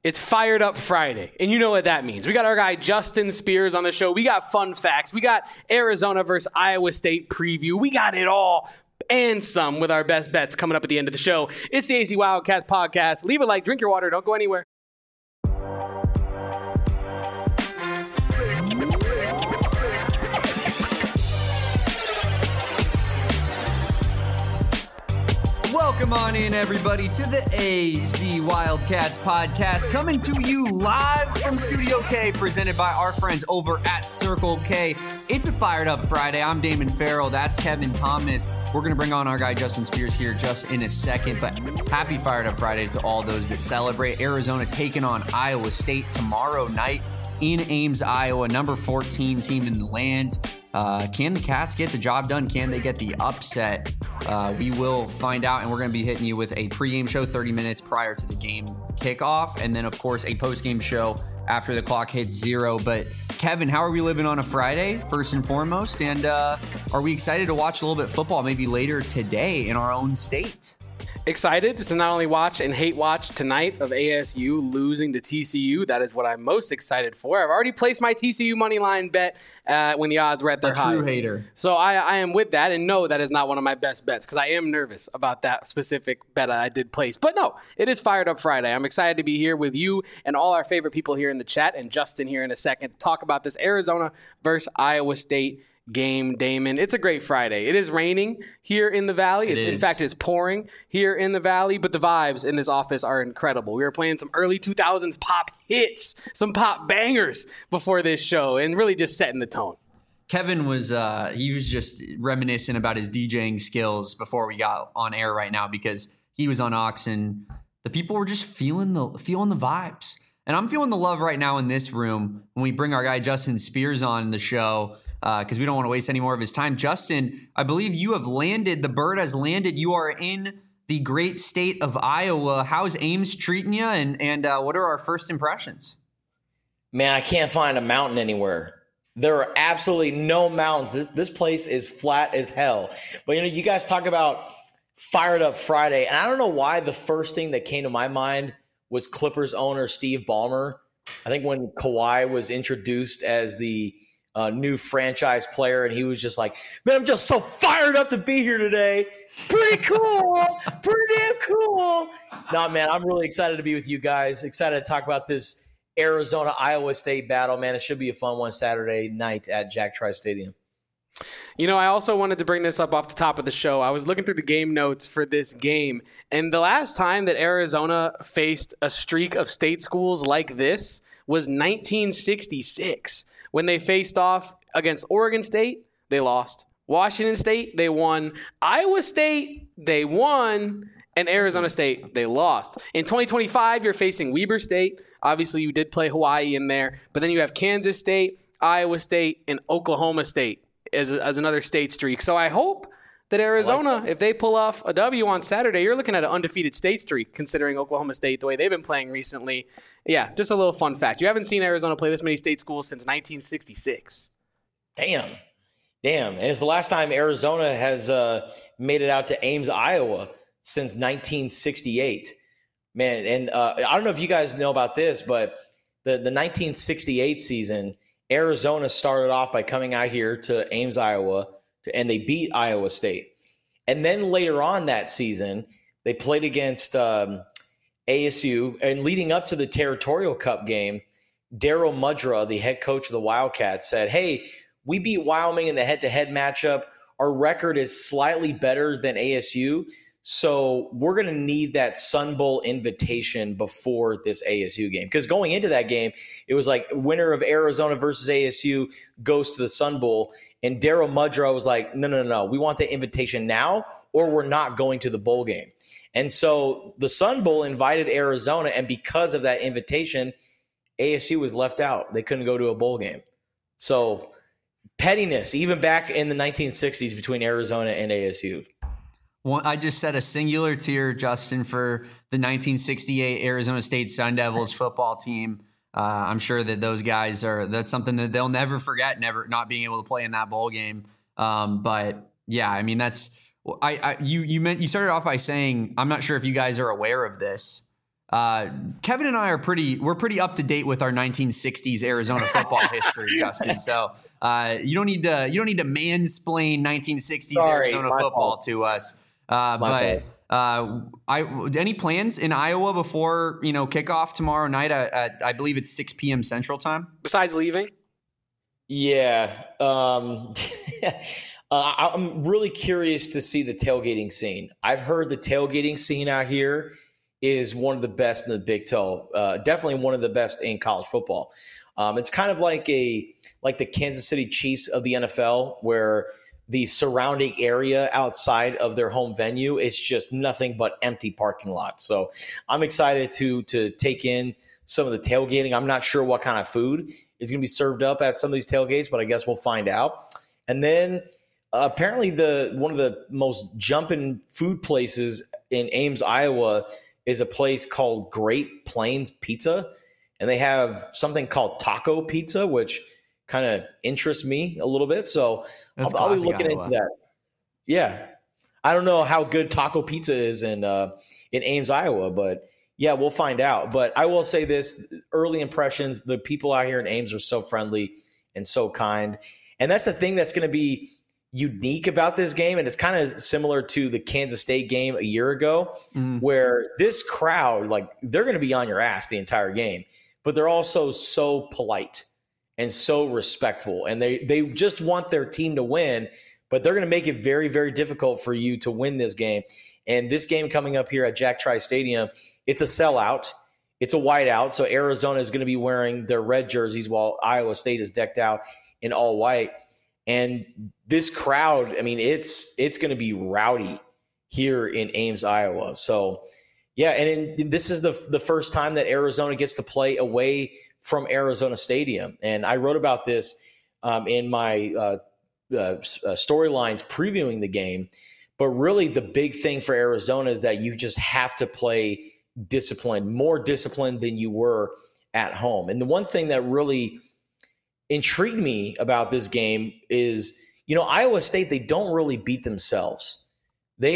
It's Fired Up Friday, and you know what that means. We got our guy Justin Spears on the show. We got fun facts. We got Arizona versus Iowa State preview. We got it all and some with our best bets coming up at the end of the show. It's the AZ Wildcats podcast. Leave a like, drink your water, don't go anywhere. Welcome on in, everybody, to the AZ Wildcats podcast, coming to you live from Studio K, presented by our friends over at Circle K. It's a Fired Up Friday. I'm Damon Farrell. That's Kevin Thomas. We're going to bring on our guy Justin Spears here just in a second, but happy Fired Up Friday to all those that celebrate. Arizona taking on Iowa State tomorrow night in Ames, Iowa, number 14 team in the land. Can the Cats get the job done? Can they get the upset? We will find out, and we're going to be hitting you with a pregame show 30 minutes prior to the game kickoff, and then, of course, a postgame show after the clock hits zero. But, Kevin, how are we living on a Friday, first and foremost? And are we excited to watch a little bit of football maybe later today in our own state? Excited to not only watch and hate watch tonight of ASU losing to TCU. That is what I'm most excited for. I've already placed my TCU money line bet when the odds were at their highest. True hater. So I am with that, and no, that is not one of my best bets because I am nervous about that specific bet I did place. But no, it is Fired Up Friday. I'm excited to be here with you and all our favorite people here in the chat, and Justin here in a second to talk about this Arizona versus Iowa State game, Damon. It's a great Friday. It is raining here in the Valley. In fact, it's pouring here in the Valley, but the vibes in this office are incredible. We were playing some early 2000s pop hits, some pop bangers before this show, and really just setting the tone. Kevin was he was just reminiscing about his DJing skills before we got on air right now, because he was on Ox and the people were just feeling the vibes. And I'm feeling the love right now in this room when we bring our guy Justin Spears on the show, because we don't want to waste any more of his time. Justin, I believe you have landed. The bird has landed. You are in the great state of Iowa. How's Ames treating you, and what are our first impressions? Man, I can't find a mountain anywhere. There are absolutely no mountains. This place is flat as hell. But, you guys talk about Fired Up Friday, and I don't know why the first thing that came to my mind was Clippers owner Steve Ballmer. I think when Kawhi was introduced as the new franchise player, and he was just like, man, I'm just so fired up to be here today. Pretty cool. Pretty damn cool. No, man, I'm really excited to be with you guys. Excited to talk about this Arizona-Iowa State battle, man. It should be a fun one Saturday night at Jack Trice Stadium. I also wanted to bring this up off the top of the show. I was looking through the game notes for this game, and the last time that Arizona faced a streak of state schools like this was 1966. When they faced off against Oregon State, they lost. Washington State, they won. Iowa State, they won. And Arizona State, they lost. In 2025, you're facing Weber State. Obviously, you did play Hawaii in there. But then you have Kansas State, Iowa State, and Oklahoma State as another state streak. So I hope that Arizona, if they pull off a W on Saturday, you're looking at an undefeated state streak, considering Oklahoma State, the way they've been playing recently. Yeah, just a little fun fact. You haven't seen Arizona play this many state schools since 1966. Damn. And it's the last time Arizona has made it out to Ames, Iowa since 1968. Man, and I don't know if you guys know about this, but the 1968 season, Arizona started off by coming out here to Ames, Iowa, and they beat Iowa State. And then later on that season, they played against ASU. And leading up to the Territorial Cup game, Darryl Mudra, the head coach of the Wildcats, said, hey, we beat Wyoming in the head-to-head matchup. Our record is slightly better than ASU, so we're going to need that Sun Bowl invitation before this ASU game. Because going into that game, it was like winner of Arizona versus ASU goes to the Sun Bowl. And Darryl Mudra was like, no. We want the invitation now, or we're not going to the bowl game. And so the Sun Bowl invited Arizona, and because of that invitation, ASU was left out. They couldn't go to a bowl game. So pettiness, even back in the 1960s between Arizona and ASU. Well, I just set a singular tier, Justin, for the 1968 Arizona State Sun Devils football team. I'm sure that those guys that's something that they'll never forget, never not being able to play in that bowl game. But yeah, I mean, you started off by saying, I'm not sure if you guys are aware of this. Kevin and I we're pretty up to date with our 1960s Arizona football history, Justin. So you don't need to mansplain 1960s Arizona football to us. Any plans in Iowa before kickoff tomorrow night at I believe it's 6 p.m. Central Time? Besides leaving? Yeah. I'm really curious to see the tailgating scene. I've heard the tailgating scene out here is one of the best in the Big 12. Definitely one of the best in college football. It's kind of like the Kansas City Chiefs of the NFL, where the surrounding area outside of their home venue is just nothing but empty parking lots. So I'm excited to take in some of the tailgating. I'm not sure what kind of food is going to be served up at some of these tailgates, but I guess we'll find out. And then apparently one of the most jumping food places in Ames, Iowa is a place called Great Plains Pizza. And they have something called taco pizza, which kind of interests me a little bit. So I'll be looking into that. Yeah. I don't know how good taco pizza is in Ames, Iowa, but yeah, we'll find out. But I will say this, early impressions, the people out here in Ames are so friendly and so kind. And that's the thing that's going to be unique about this game. And it's kind of similar to the Kansas State game a year ago, where this crowd, like, they're going to be on your ass the entire game, but they're also so polite and so respectful. And they just want their team to win, but they're going to make it very, very difficult for you to win this game. And this game coming up here at Jack Trice Stadium, it's a sellout. It's a whiteout. So Arizona is going to be wearing their red jerseys while Iowa State is decked out in all white. And this crowd, I mean, it's going to be rowdy here in Ames, Iowa. So, yeah, and this is the first time that Arizona gets to play away from Arizona Stadium. And I wrote about this in my storylines previewing the game. But really the big thing for Arizona is that you just have to play disciplined, more disciplined than you were at home. And the one thing that really intrigued me about this game is, Iowa State, they don't really beat themselves. They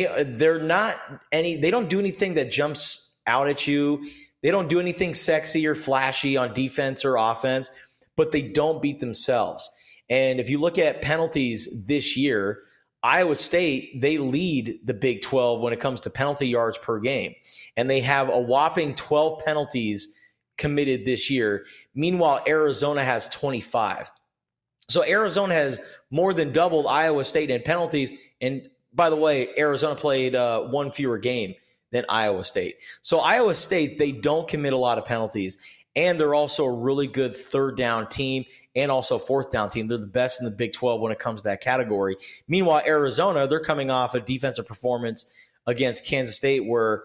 don't do anything that jumps out at you. They don't do anything sexy or flashy on defense or offense, but they don't beat themselves. And if you look at penalties this year, Iowa State, they lead the Big 12 when it comes to penalty yards per game. And they have a whopping 12 penalties committed this year. Meanwhile, Arizona has 25. So Arizona has more than doubled Iowa State in penalties. And by the way, Arizona played one fewer game than Iowa State. So Iowa State, they don't commit a lot of penalties. And they're also a really good third down team and also fourth down team. They're the best in the Big 12 when it comes to that category. Meanwhile, Arizona, they're coming off a defensive performance against Kansas State where,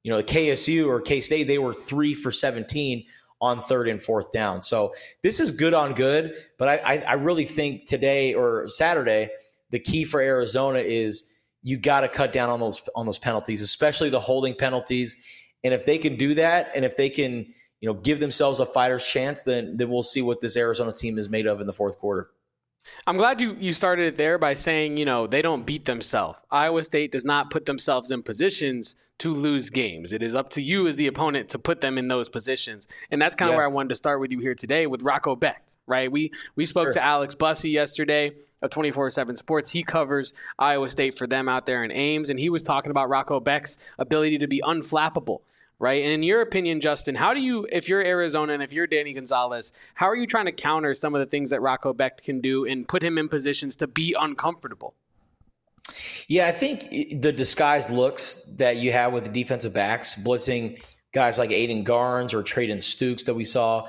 KSU or K-State, they were 3 for 17 on third and fourth down. So this is good on good, but I really think today or Saturday, the key for Arizona is you got to cut down on those penalties, especially the holding penalties. And if they can do that, and if they can, give themselves a fighter's chance, then we'll see what this Arizona team is made of in the fourth quarter. I'm glad you started it there by saying, they don't beat themselves. Iowa State does not put themselves in positions to lose games. It is up to you as the opponent to put them in those positions. And that's kind of where I wanted to start with you here today with Rocco Becht, right? We spoke to Alex Bussey yesterday of 24/7 Sports. He covers Iowa State for them out there in Ames, and he was talking about Rocco Becht's ability to be unflappable. Right. And in your opinion, Justin, how do you, if you're Arizona and if you're Danny Gonzalez, how are you trying to counter some of the things that Rocco Becht can do and put him in positions to be uncomfortable? Yeah, I think the disguised looks that you have with the defensive backs, blitzing guys like Aiden Garnes or Traden Stukes that we saw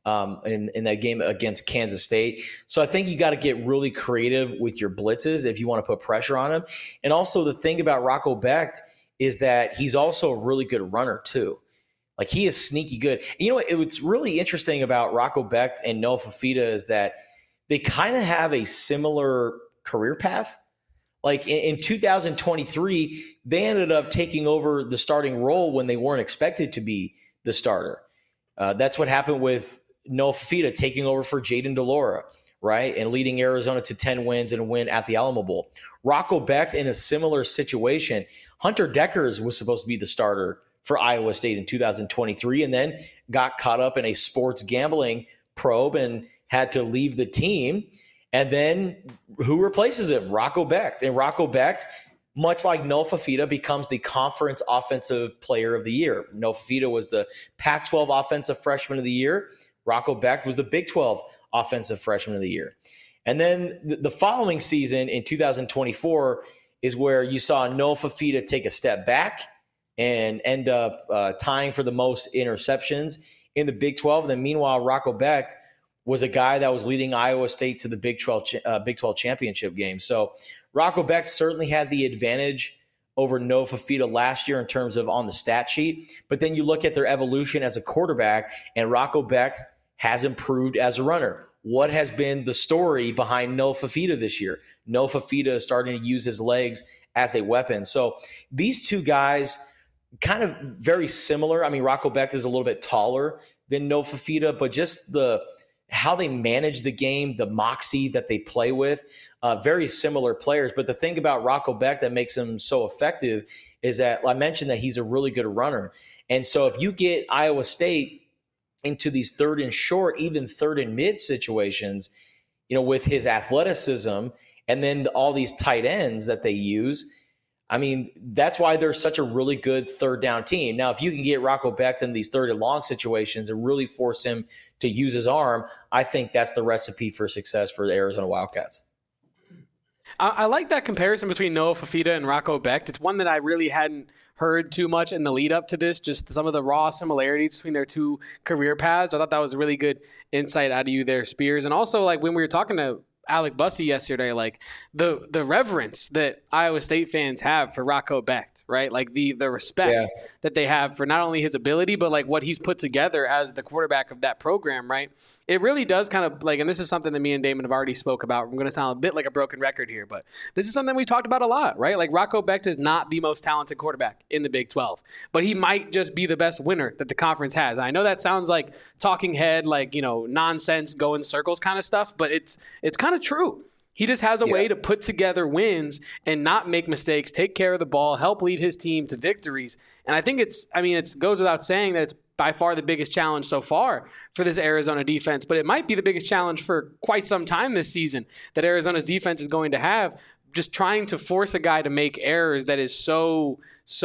in that game against Kansas State. So I think you got to get really creative with your blitzes if you want to put pressure on them. And also the thing about Rocco Becht is that he's also a really good runner too. Like, he is sneaky good. And what's really interesting about Rocco Becht and Noah Fifita is that they kind of have a similar career path. Like in 2023, they ended up taking over the starting role when they weren't expected to be the starter. That's what happened with Noah Fifita taking over for Jayden de Laura, right? And leading Arizona to 10 wins and a win at the Alamo Bowl. Rocco Becht in a similar situation. Hunter Dekkers was supposed to be the starter for Iowa State in 2023, and then got caught up in a sports gambling probe and had to leave the team. And then who replaces him? Rocco Becht. And Rocco Becht, much like Noah Fifita, becomes the conference offensive player of the year. Noah Fifita was the Pac-12 offensive freshman of the year. Rocco Becht was the Big 12 offensive freshman of the year. And then the following season in 2024 is where you saw Noah Fifita take a step back and end up tying for the most interceptions in the Big 12. And then meanwhile, Rocco Becht was a guy that was leading Iowa State to the Big 12 championship game. So Rocco Becht certainly had the advantage over Noah Fifita last year in terms of on the stat sheet. But then you look at their evolution as a quarterback, and Rocco Becht has improved as a runner. What has been the story behind Noah Fifita this year? Noah Fifita is starting to use his legs as a weapon. So these two guys kind of very similar. I mean, Rocco Becht is a little bit taller than Noah Fifita, but just how they manage the game, the moxie that they play with, very similar players. But the thing about Rocco Becht that makes him so effective is that I mentioned that he's a really good runner. And so if you get Iowa State into these third and short, even third and mid situations, with his athleticism and then all these tight ends that they use, I mean, that's why they're such a really good third down team. Now, if you can get Rocco Becht in these third and long situations and really force him to use his arm, I think that's the recipe for success for the Arizona Wildcats. I like that comparison between Noah Fifita and Rocco Becht. It's one that I really hadn't heard too much in the lead up to this, just some of the raw similarities between their two career paths. I thought that was a really good insight out of you there, Spears. And also, like, when we were talking to Alec Bussey yesterday, like the reverence that Iowa State fans have for Rocco Becht, right? Like the respect that they have for not only his ability, but like what he's put together as the quarterback of that program, right? It really does kind of like, and this is something that me and Damon have already spoke about. I'm going to sound a bit like a broken record here, but this is something we've talked about a lot, right? Like Rocco Becht is not the most talented quarterback in the Big 12, but he might just be the best winner that the conference has. I know that sounds like talking head, like, nonsense, go in circles kind of stuff, but it's kind of true. He just has a way to put together wins and not make mistakes, take care of the ball, help lead his team to victories. And I think it goes without saying that it's by far the biggest challenge so far for this Arizona defense, but it might be the biggest challenge for quite some time this season that Arizona's defense is going to have, just trying to force a guy to make errors that is so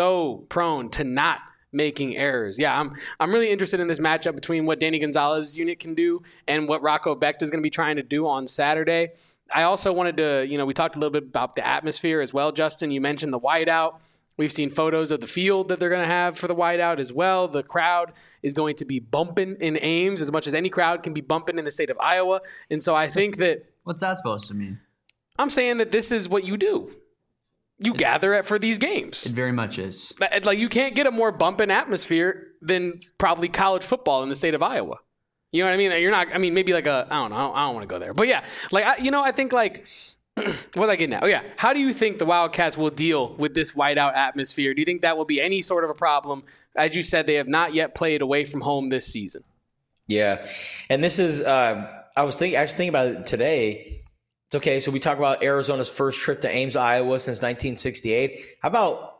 prone to not making errors. Yeah, I'm really interested in this matchup between what Danny Gonzalez's unit can do and what Rocco Becht is going to be trying to do on Saturday. I also wanted to, we talked a little bit about the atmosphere as well, Justin. You mentioned the whiteout. We've seen photos of the field that they're going to have for the whiteout as well. The crowd is going to be bumping in Ames as much as any crowd can be bumping in the state of Iowa. And so I think that... What's that supposed to mean? I'm saying that this is what you do. You gather for these games. It very much is. Like, you can't get a more bumping atmosphere than probably college football in the state of Iowa. You know what I mean? You're not, maybe like I don't know. I don't want to go there. But yeah, like, I think like, what was I getting at? Oh yeah. How do you think the Wildcats will deal with this whiteout atmosphere? Do you think that will be any sort of a problem? As you said, they have not yet played away from home this season. Yeah. And this is, I was thinking about it today. It's okay. So we talk about Arizona's first trip to Ames, Iowa since 1968. How about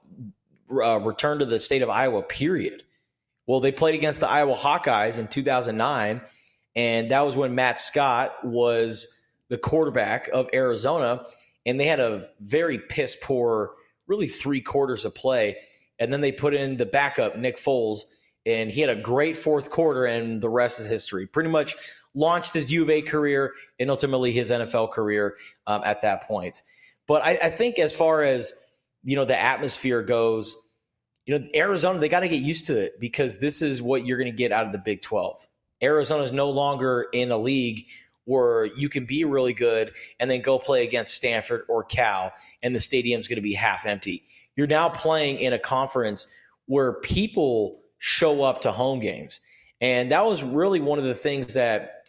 return to the state of Iowa, period? Well, they played against the Iowa Hawkeyes in 2009, and that was when Matt Scott was the quarterback of Arizona, and they had a very piss-poor, really 3 quarters of play, and then they put in the backup, Nick Foles, and he had a great fourth quarter, and the rest is history. Pretty much launched his U of A career and ultimately his NFL career at that point. But I think as far as, the atmosphere goes, Arizona, they got to get used to it because this is what you're going to get out of the Big 12. Arizona is no longer in a league where you can be really good and then go play against Stanford or Cal and the stadium's going to be half empty. You're now playing in a conference where people show up to home games. And that was really one of the things that,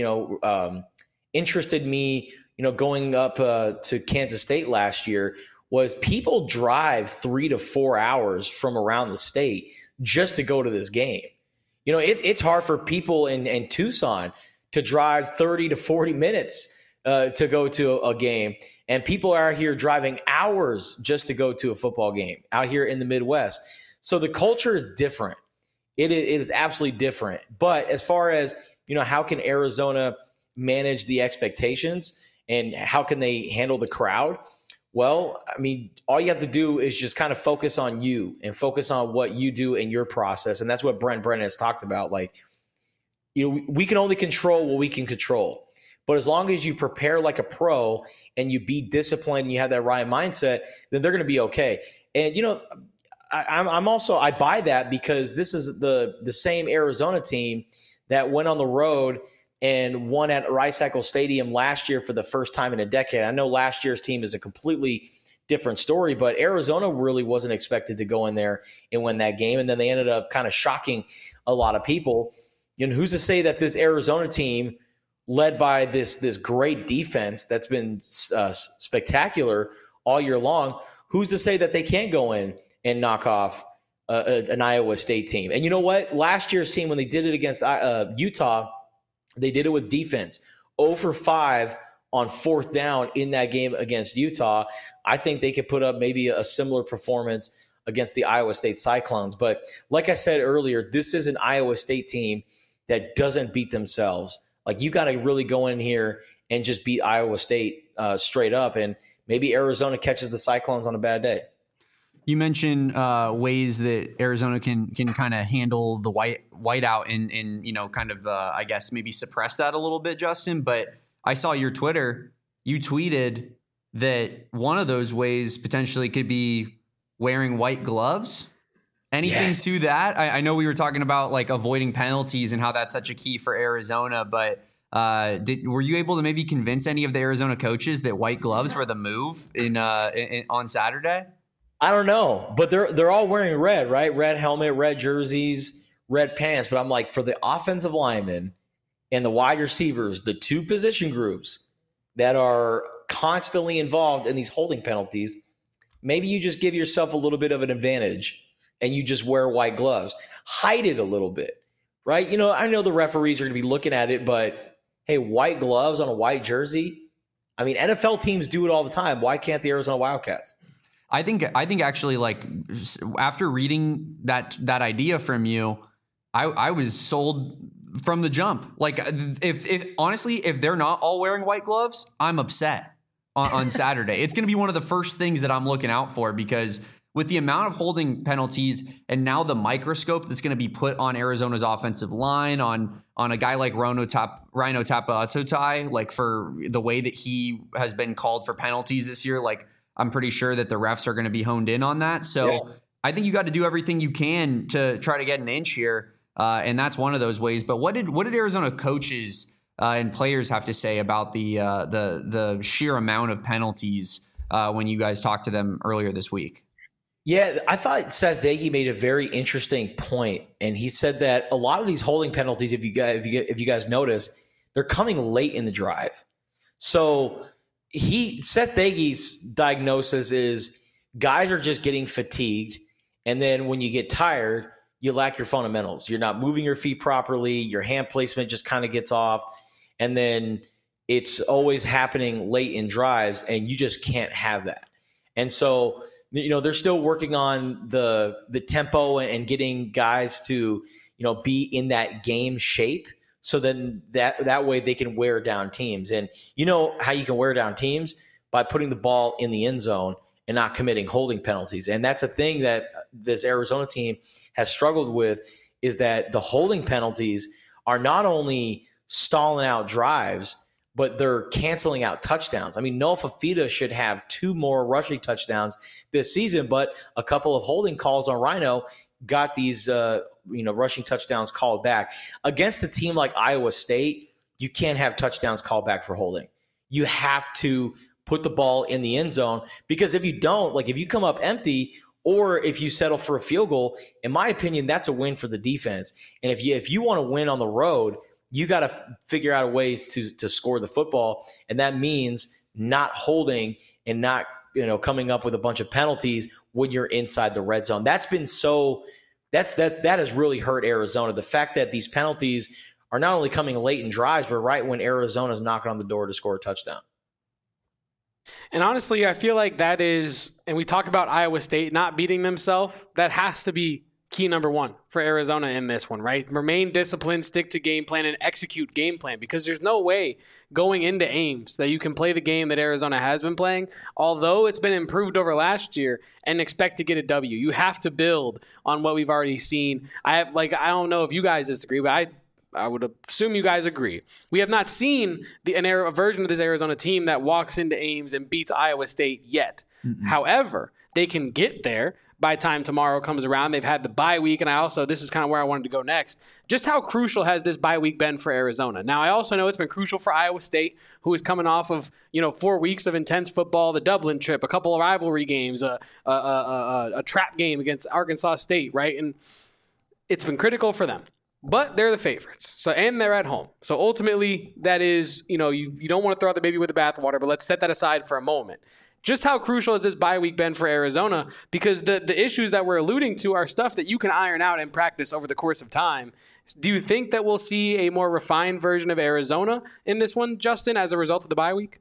interested me, going up to Kansas State last year was people drive 3 to 4 hours from around the state just to go to this game. It's hard for people in Tucson to drive 30 to 40 minutes to go to a game. And people are here driving hours just to go to a football game out here in the Midwest. So the culture is different. It is absolutely different. But as far as, how can Arizona manage the expectations and how can they handle the crowd? Well, I mean, all you have to do is just kind of focus on you and focus on what you do in your process. And that's what Brent Brennan has talked about. Like, we can only control what we can control. But as long as you prepare like a pro and you be disciplined and you have that right mindset, then they're going to be okay. And, I buy that because this is the same Arizona team that went on the road and won at Rice-Eccles Stadium last year for the first time in a decade. I know last year's team is a completely different story, but Arizona really wasn't expected to go in there and win that game. And then they ended up kind of shocking a lot of people. And who's to say that this Arizona team, led by this great defense that's been spectacular all year long, who's to say that they can't go in and knock off an Iowa State team? And you know what? Last year's team, when they did it against Utah, they did it with defense. 0 for 5 on 4th down in that game against Utah. I think they could put up maybe a similar performance against the Iowa State Cyclones. But like I said earlier, this is an Iowa State team that doesn't beat themselves. Like, you got to really go in here and just beat Iowa State straight up. And maybe Arizona catches the Cyclones on a bad day. You mentioned ways that Arizona can kind of handle the whiteout and kind of I guess maybe suppress that a little bit, Justin. But I saw your Twitter. You tweeted that one of those ways potentially could be wearing white gloves. Anything to that? I know we were talking about like avoiding penalties and how that's such a key for Arizona, but were you able to maybe convince any of the Arizona coaches that white gloves were the move on Saturday? I don't know, but they're all wearing red, right? Red helmet, red jerseys, red pants. But I'm like, for the offensive linemen and the wide receivers, the two position groups that are constantly involved in these holding penalties, maybe you just give yourself a little bit of an advantage and you just wear white gloves. Hide it a little bit, right? I know the referees are going to be looking at it, but hey, white gloves on a white jersey? I mean, NFL teams do it all the time. Why can't the Arizona Wildcats? I think actually, like, after reading that idea from you, I was sold from the jump. Like, if honestly, if they're not all wearing white gloves, I'm upset on Saturday. It's going to be one of the first things that I'm looking out for, because with the amount of holding penalties and now the microscope that's going to be put on Arizona's offensive line, on a guy like Rhino Tapatotai, like, for the way that he has been called for penalties this year, like, I'm pretty sure that the refs are going to be honed in on that. So I think you got to do everything you can to try to get an inch here. And that's one of those ways. But what did Arizona coaches and players have to say about the sheer amount of penalties when you guys talked to them earlier this week? Yeah, I thought Seth Doege made a very interesting point, and he said that a lot of these holding penalties, if you guys notice, they're coming late in the drive. So Seth Doege's diagnosis is guys are just getting fatigued, and then when you get tired, you lack your fundamentals. You're not moving your feet properly. Your hand placement just kind of gets off, and then it's always happening late in drives, and you just can't have that. And so, they're still working on the tempo and getting guys to, be in that game shape. So then that way they can wear down teams. And you know how you can wear down teams? By putting the ball in the end zone and not committing holding penalties. And that's a thing that this Arizona team has struggled with, is that the holding penalties are not only stalling out drives, but they're canceling out touchdowns. I mean, Noah Fafita should have 2 more rushing touchdowns this season, but a couple of holding calls on Rhino got these rushing touchdowns called back. Against a team like Iowa State, you can't have touchdowns called back for holding. You have to put the ball in the end zone, because if you don't, like, if you come up empty or if you settle for a field goal, in my opinion, that's a win for the defense. And if you want to win on the road, you got to figure out ways to score the football, and that means not holding and not coming up with a bunch of penalties when you're inside the red zone. That has really hurt Arizona. The fact that these penalties are not only coming late in drives, but right when Arizona's knocking on the door to score a touchdown. And honestly, I feel like that is, and we talk about Iowa State not beating themselves, that has to be key number one for Arizona in this one, right? Remain disciplined, stick to game plan, and execute game plan, because there's no way going into Ames that you can play the game that Arizona has been playing, although it's been improved over last year, and expect to get a W. You have to build on what we've already seen. I don't know if you guys disagree, but I would assume you guys agree. We have not seen a version of this Arizona team that walks into Ames and beats Iowa State yet. Mm-hmm. However, they can get there by the time tomorrow comes around. They've had the bye week, and this is kind of where I wanted to go next. Just how crucial has this bye week been for Arizona? Now, I also know it's been crucial for Iowa State, who is coming off of 4 weeks of intense football, the Dublin trip, a couple of rivalry games, a trap game against Arkansas State, right? And it's been critical for them. But they're the favorites, and they're at home. So ultimately, that is, you don't want to throw out the baby with the bathwater, but let's set that aside for a moment. Just how crucial has this bye week been for Arizona? Because the issues that we're alluding to are stuff that you can iron out in practice over the course of time. Do you think that we'll see a more refined version of Arizona in this one, Justin, as a result of the bye week?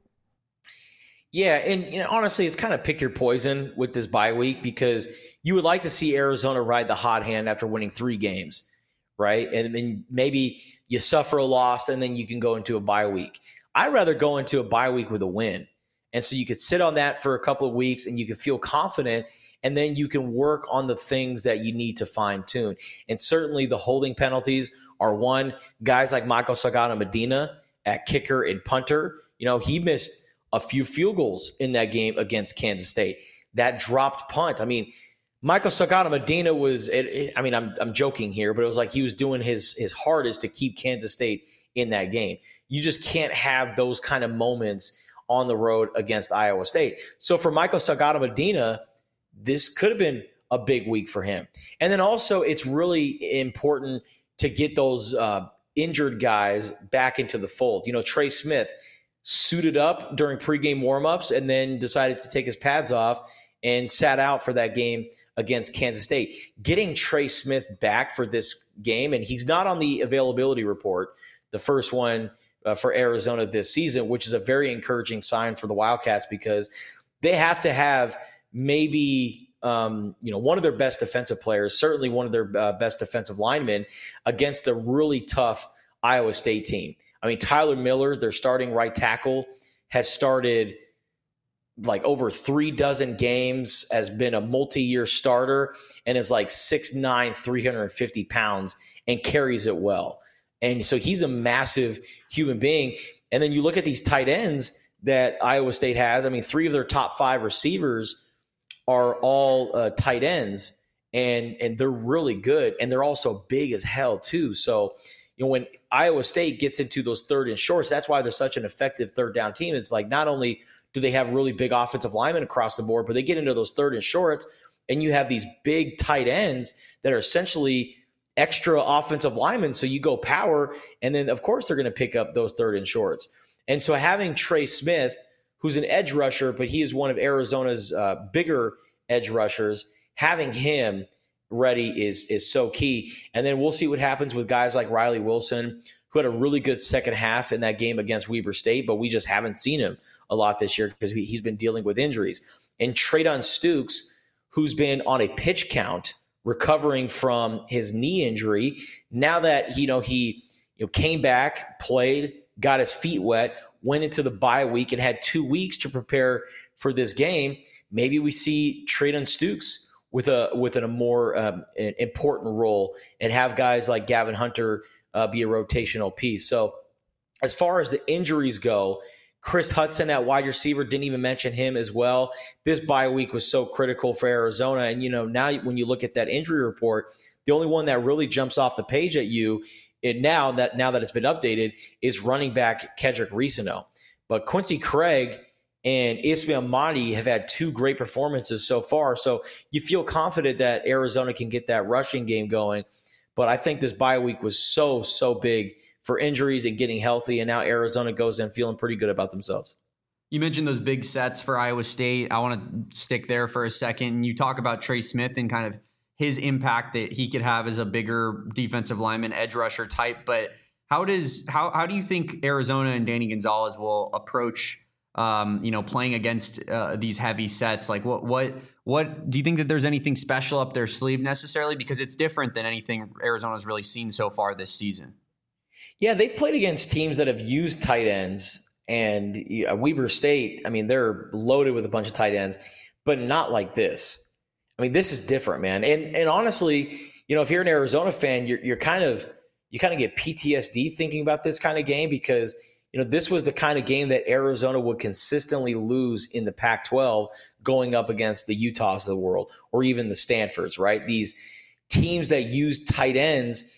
Yeah, and honestly, it's kind of pick your poison with this bye week, because you would like to see Arizona ride the hot hand after winning 3 games, right? And then maybe you suffer a loss and then you can go into a bye week. I'd rather go into a bye week with a win. And so you could sit on that for a couple of weeks and you can feel confident, and then you can work on the things that you need to fine tune. And certainly the holding penalties are one. Guys like Michael Sagana-Medina at kicker and punter, he missed a few field goals in that game against Kansas State. That dropped punt. I mean, Michael Sagana-Medina was, I'm joking here, but it was like he was doing his hardest to keep Kansas State in that game. You just can't have those kind of moments on the road against Iowa State. So for Michael Sagana-Medina, this could have been a big week for him. And then also it's really important to get those injured guys back into the fold. Trey Smith suited up during pregame warmups and then decided to take his pads off and sat out for that game against Kansas State. Getting Trey Smith back for this game, and he's not on the availability report, the first one for Arizona this season, which is a very encouraging sign for the Wildcats, because they have to have maybe one of their best defensive players, certainly one of their best defensive linemen, against a really tough Iowa State team. I mean, Tyler Miller, their starting right tackle, has started like over 3 dozen games, has been a multi-year starter, and is like 6'9", 350 pounds, and carries it well. And so he's a massive human being. And then you look at these tight ends that Iowa State has. I mean, 3 of their top 5 receivers are all tight ends, and they're really good. And they're also big as hell too. So, when Iowa State gets into those third and shorts, that's why they're such an effective third down team. It's like, not only do they have really big offensive linemen across the board, but they get into those third and shorts, and you have these big tight ends that are essentially extra offensive linemen. So you go power, and then of course they're going to pick up those third and shorts. And so having Trey Smith, who's an edge rusher, but he is one of Arizona's bigger edge rushers, having him ready is so key. And then we'll see what happens with guys like Riley Wilson, who had a really good second half in that game against Weber State, but we just haven't seen him a lot this year because he's been dealing with injuries. And Treydon Stukes, who's been on a pitch count, recovering from his knee injury. Now that he came back, played, got his feet wet, went into the bye week, and had 2 weeks to prepare for this game, maybe we see Treydon Stukes with a more important role, and have guys like Gavin Hunter be a rotational piece. So as far as the injuries go, Chris Hudson at wide receiver, didn't even mention him as well. This bye week was so critical for Arizona. And, now when you look at that injury report, the only one that really jumps off the page at you, and now that it's been updated, is running back Kedrick Reesano. But Quincy Craig and Ismail Mahdi have had 2 great performances so far. So you feel confident that Arizona can get that rushing game going. But I think this bye week was so big for injuries and getting healthy, and now Arizona goes in feeling pretty good about themselves. You mentioned those big sets for Iowa State. I want to stick there for a second. You talk about Trey Smith and kind of his impact that he could have as a bigger defensive lineman, edge rusher type. But how do you think Arizona and Danny Gonzalez will approach playing against these heavy sets? Like what do you think that there's anything special up their sleeve necessarily? Because it's different than anything Arizona's really seen so far this season. Yeah, they've played against teams that have used tight ends, and Weber State, I mean, they're loaded with a bunch of tight ends, but not like this. I mean, this is different, man. And honestly, if you're an Arizona fan, you kind of get PTSD thinking about this kind of game, because this was the kind of game that Arizona would consistently lose in the Pac-12 going up against the Utahs of the world, or even the Stanfords, right? These teams that use tight ends,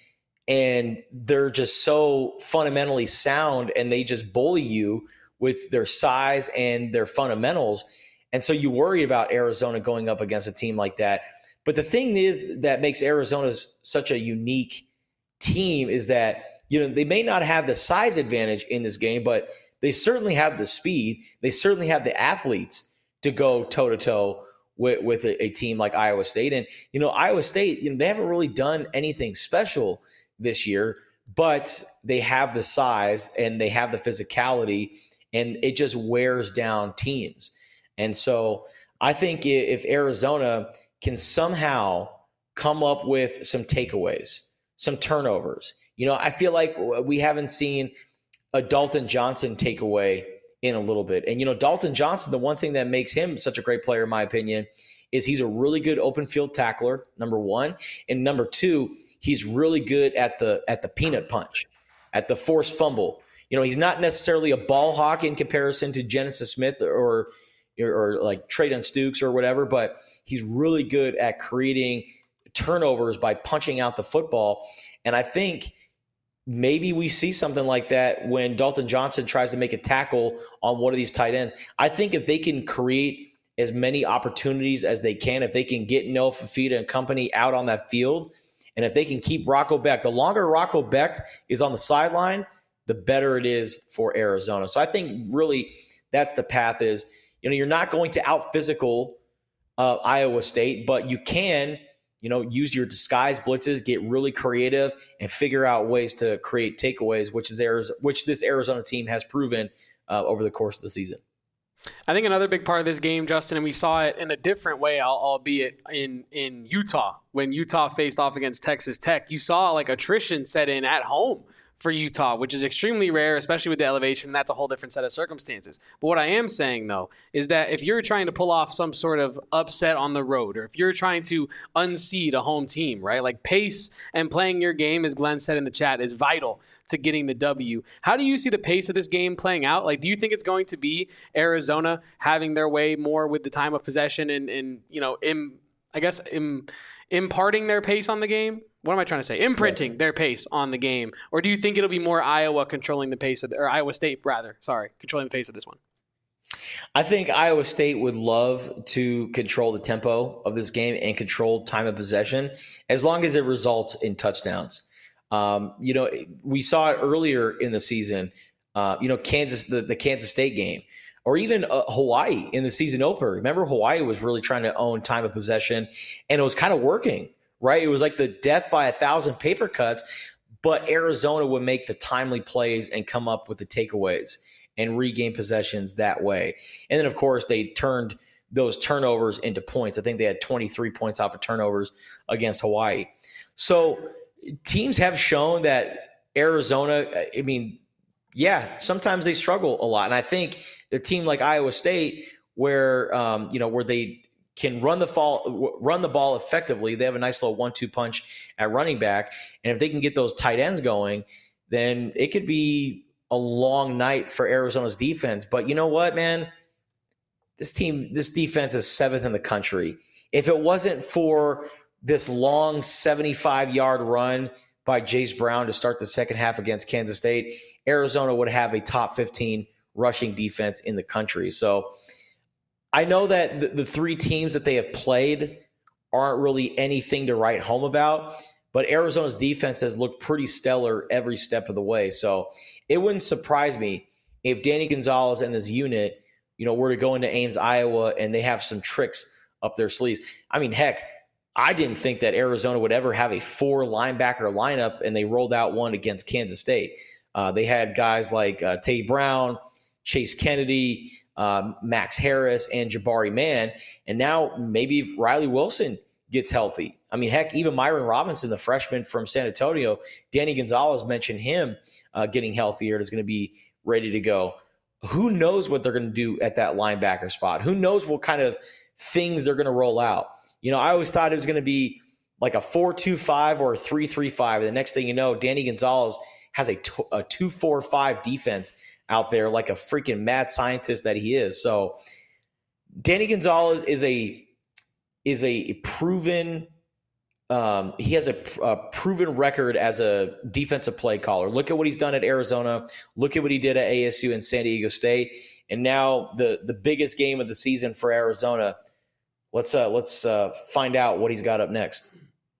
and they're just so fundamentally sound, and they just bully you with their size and their fundamentals. And so you worry about Arizona going up against a team like that. But the thing is that makes Arizona such a unique team is that they may not have the size advantage in this game, but they certainly have the speed. They certainly have the athletes to go toe-to-toe with a team like Iowa State. And, Iowa State, they haven't really done anything special this year, but they have the size and they have the physicality, and it just wears down teams. And so I think if Arizona can somehow come up with some takeaways, some turnovers, I feel like we haven't seen a Dalton Johnson takeaway in a little bit. And, Dalton Johnson, the one thing that makes him such a great player, in my opinion, is he's a really good open field tackler, number one. And number two, he's really good at the peanut punch, at the forced fumble. He's not necessarily a ball hawk in comparison to Genesis Smith or like Treydon Stukes or whatever, but he's really good at creating turnovers by punching out the football. And I think maybe we see something like that when Dalton Johnson tries to make a tackle on one of these tight ends. I think if they can create as many opportunities as they can, if they can get Noah Fifita and company out on that field, and if they can keep Rocco Becht, the longer Rocco Becht is on the sideline, the better it is for Arizona. So I think really that's the path is, you're not going to out-physical Iowa State, but you can, use your disguise blitzes, get really creative, and figure out ways to create takeaways, which this Arizona team has proven over the course of the season. I think another big part of this game, Justin, and we saw it in a different way, albeit in Utah, when Utah faced off against Texas Tech, you saw like attrition set in at home for Utah, which is extremely rare, especially with the elevation, and that's a whole different set of circumstances. But what I am saying, though, is that if you're trying to pull off some sort of upset on the road, or if you're trying to unseed a home team, right, like pace and playing your game, as Glenn said in the chat, is vital to getting the W. How do you see the pace of this game playing out? Like, do you think it's going to be Arizona having their way more with the time of possession and imparting their pace on the game? What am I trying to say? Imprinting their pace on the game. Or do you think it'll be more Iowa controlling the pace or Iowa State, rather, controlling the pace of this one? I think Iowa State would love to control the tempo of this game and control time of possession as long as it results in touchdowns. We saw it earlier in the season, the Kansas State game, or even Hawaii in the season opener. Remember, Hawaii was really trying to own time of possession, and it was kind of working. Right? It was like the death by 1,000 paper cuts, but Arizona would make the timely plays and come up with the takeaways and regain possessions that way. And then, of course, they turned those turnovers into points. I think they had 23 points off of turnovers against Hawaii. So teams have shown that Arizona, sometimes they struggle a lot. And I think a team like Iowa State, where they can run the ball effectively. They have a nice little 1-2 punch at running back. And if they can get those tight ends going, then it could be a long night for Arizona's defense. But you know what, man? This defense is 7th in the country. If it wasn't for this long 75-yard run by Jace Brown to start the second half against Kansas State, Arizona would have a top 15 rushing defense in the country. So I know that the three teams that they have played aren't really anything to write home about, but Arizona's defense has looked pretty stellar every step of the way. So it wouldn't surprise me if Danny Gonzalez and his unit, were to go into Ames, Iowa, and they have some tricks up their sleeves. I mean, heck, I didn't think that Arizona would ever have a 4-linebacker lineup, and they rolled out one against Kansas State. They had guys like Tate Brown, Chase Kennedy, Max Harris and Jabari Mann. And now maybe if Riley Wilson gets healthy. I mean, heck, even Myron Robinson, the freshman from San Antonio, Danny Gonzalez mentioned him getting healthier and is going to be ready to go. Who knows what they're going to do at that linebacker spot? Who knows what kind of things they're going to roll out? You know, I always thought it was going to be like a 4-2-5 or a 3-3-5. The next thing you know, Danny Gonzalez has a 2-4-5 defense out there like a freaking mad scientist that he is. So Danny Gonzalez is a proven he has a proven record as a defensive play caller. Look at what he's done at Arizona. Look at what he did at ASU and San Diego State. And now the biggest game of the season for Arizona. Let's find out what he's got up next.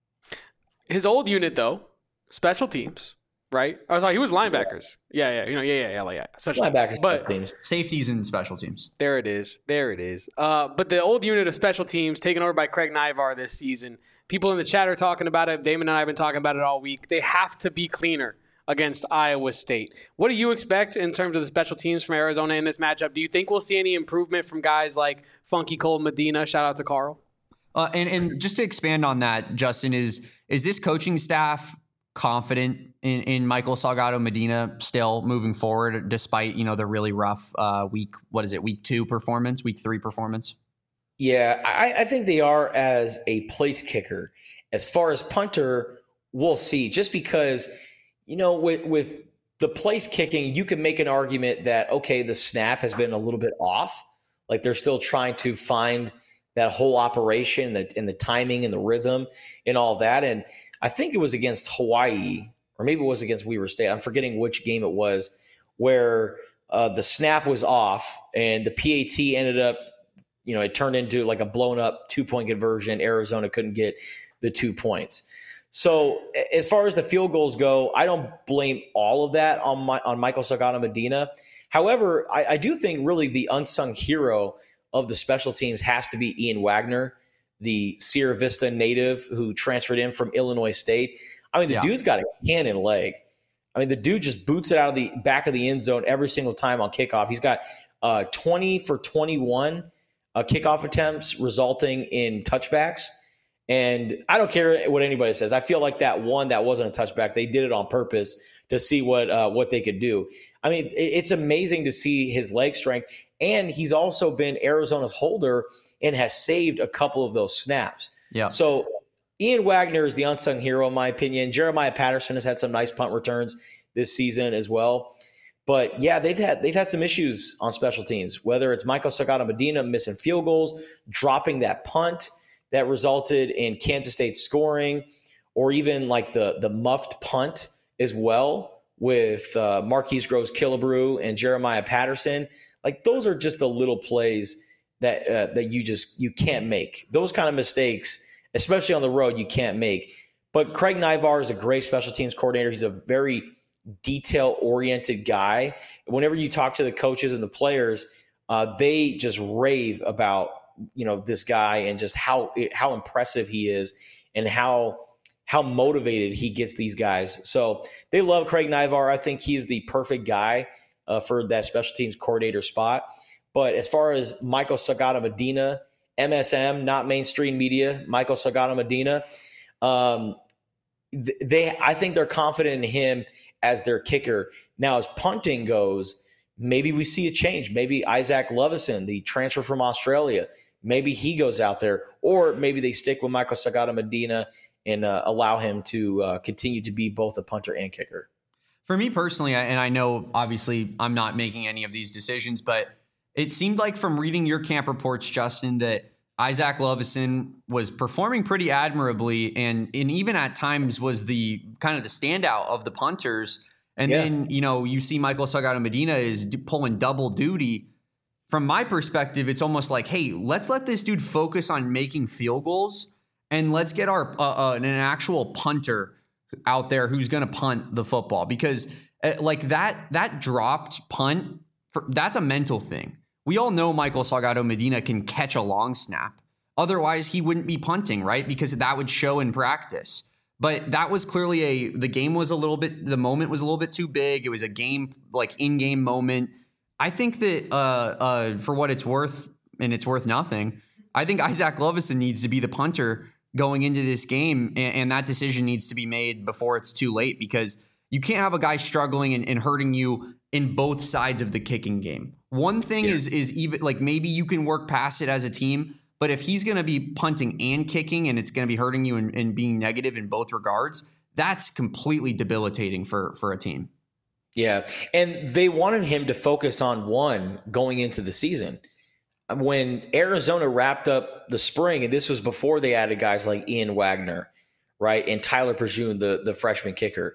His old unit, though, special teams, right? Oh, sorry, he was linebackers. Yeah. Special linebackers, but teams, safeties, and special teams. There it is. But the old unit of special teams taken over by Craig Naivar this season. People in the chat are talking about it. Damon and I have been talking about it all week. They have to be cleaner against Iowa State. What do you expect in terms of the special teams from Arizona in this matchup? Do you think we'll see any improvement from guys like Funky Cole Medina? Shout out to Carl. And just to expand on that, Justin, is this coaching staff confident in Michael Salgado Medina still moving forward, despite, the really rough week 3 performance? Yeah, I think they are as a place kicker. As far as punter, we'll see. Just because, with the place kicking, you can make an argument that, okay, the snap has been a little bit off. Like they're still trying to find that whole operation and the timing and the rhythm and all that. And I think it was against Hawaii, or maybe it was against Weber State. I'm forgetting which game it was, where the snap was off and the PAT ended up, it turned into like a blown up 2-point conversion. Arizona couldn't get the 2 points. So as far as the field goals go, I don't blame all of that on Michael Salgado Medina. However, I do think really the unsung hero of the special teams has to be Ian Wagner, the Sierra Vista native who transferred in from Illinois State. I mean, the dude's got a cannon leg. I mean, the dude just boots it out of the back of the end zone every single time on kickoff. He's got 20 for 21 kickoff attempts resulting in touchbacks. And I don't care what anybody says. I feel like that one that wasn't a touchback, they did it on purpose to see what they could do. I mean, it's amazing to see his leg strength. And he's also been Arizona's holder and has saved a couple of those snaps. Yeah. So Ian Wagner is the unsung hero, in my opinion. Jeremiah Patterson has had some nice punt returns this season as well. But yeah, they've had some issues on special teams, whether it's Michael Salgado Medina missing field goals, dropping that punt that resulted in Kansas State scoring, or even like the muffed punt as well with Marquise Groves-Killebrew and Jeremiah Patterson. Like those are just the little plays that you can't make. Those kind of mistakes, especially on the road, you can't make. But Craig Naivar is a great special teams coordinator. He's a very detail-oriented guy. Whenever you talk to the coaches and the players, they just rave about this guy and just how impressive he is and how motivated he gets these guys. So they love Craig Naivar. I think he's the perfect guy for that special teams coordinator spot. But as far as Michael Salgado Medina, MSM, not mainstream media, Michael Salgado Medina, I think they're confident in him as their kicker. Now, as punting goes, maybe we see a change. Maybe Isaac Lovison, the transfer from Australia, maybe he goes out there, or maybe they stick with Michael Salgado Medina and allow him to continue to be both a punter and kicker. For me personally, and I know obviously I'm not making any of these decisions, but it seemed like from reading your camp reports, Justin, that Isaac Lovison was performing pretty admirably and even at times was the kind of the standout of the punters. And then, you see Michael Salgado Medina is pulling double duty. From my perspective, it's almost like, hey, let's let this dude focus on making field goals and let's get our an actual punter out there who's going to punt the football, because like that dropped punt, that's a mental thing. We all know Michael Salgado Medina can catch a long snap. Otherwise, he wouldn't be punting, right? Because that would show in practice. But that was clearly the moment was a little bit too big. It was a game, like in-game moment. I think that for what it's worth, and it's worth nothing, I think Isaac Lovison needs to be the punter going into this game, and that decision needs to be made before it's too late, because you can't have a guy struggling and hurting you in both sides of the kicking game. One thing is even like maybe you can work past it as a team, but if he's going to be punting and kicking and it's going to be hurting you and being negative in both regards, that's completely debilitating for a team. Yeah, and they wanted him to focus on one going into the season. When Arizona wrapped up the spring, and this was before they added guys like Ian Wagner, right, and Tyler Perjun, the freshman kicker,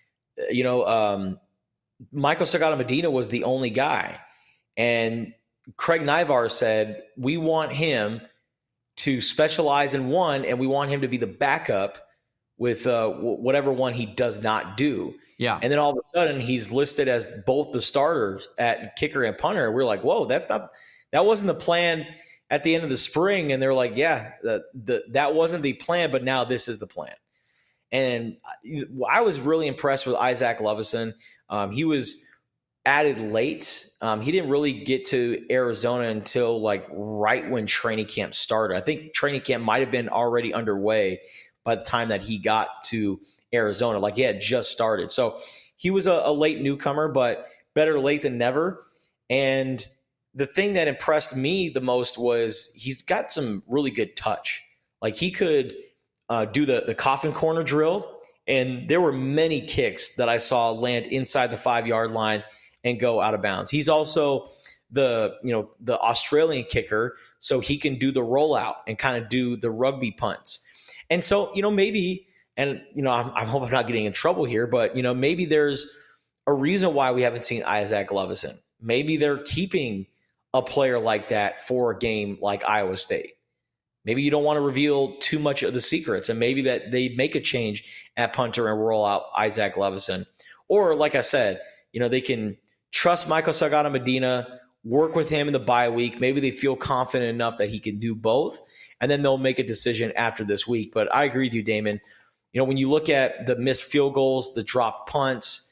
Michael Sagada-Medina was the only guy. And Craig Naivar said, we want him to specialize in one, and we want him to be the backup with whatever one he does not do. Yeah. And then all of a sudden, he's listed as both the starters at kicker and punter. We're like, whoa, that wasn't the plan at the end of the spring. And they're like, yeah, that wasn't the plan, but now this is the plan. And I was really impressed with Isaac Lovison. He was added late. He didn't really get to Arizona until like right when training camp started. I think training camp might have been already underway by the time that he got to Arizona. Like he had just started. So he was a late newcomer, but better late than never. And the thing that impressed me the most was he's got some really good touch. Like he could do the coffin corner drill, and there were many kicks that I saw land inside the 5-yard line and go out of bounds. He's also the Australian kicker, so he can do the rollout and kind of do the rugby punts. And so, maybe, and I hope I'm not getting in trouble here, but maybe there's a reason why we haven't seen Isaac Lovison. Maybe they're keeping a player like that for a game like Iowa State. Maybe you don't want to reveal too much of the secrets, and maybe that they make a change at punter and roll out Isaac Lovison. Or, like I said, they can trust Michael Sagada-Medina, work with him in the bye week. Maybe they feel confident enough that he can do both, and then they'll make a decision after this week. But I agree with you, Damon. When you look at the missed field goals, the dropped punts,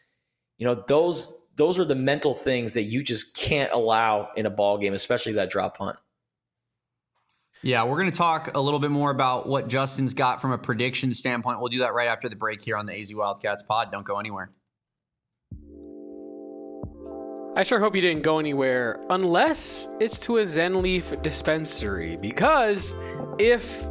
those are the mental things that you just can't allow in a ball game, especially that drop punt. Yeah, we're going to talk a little bit more about what Justin's got from a prediction standpoint. We'll do that right after the break here on the AZ Wildcats pod. Don't go anywhere. I sure hope you didn't go anywhere, unless it's to a Zen Leaf dispensary, because if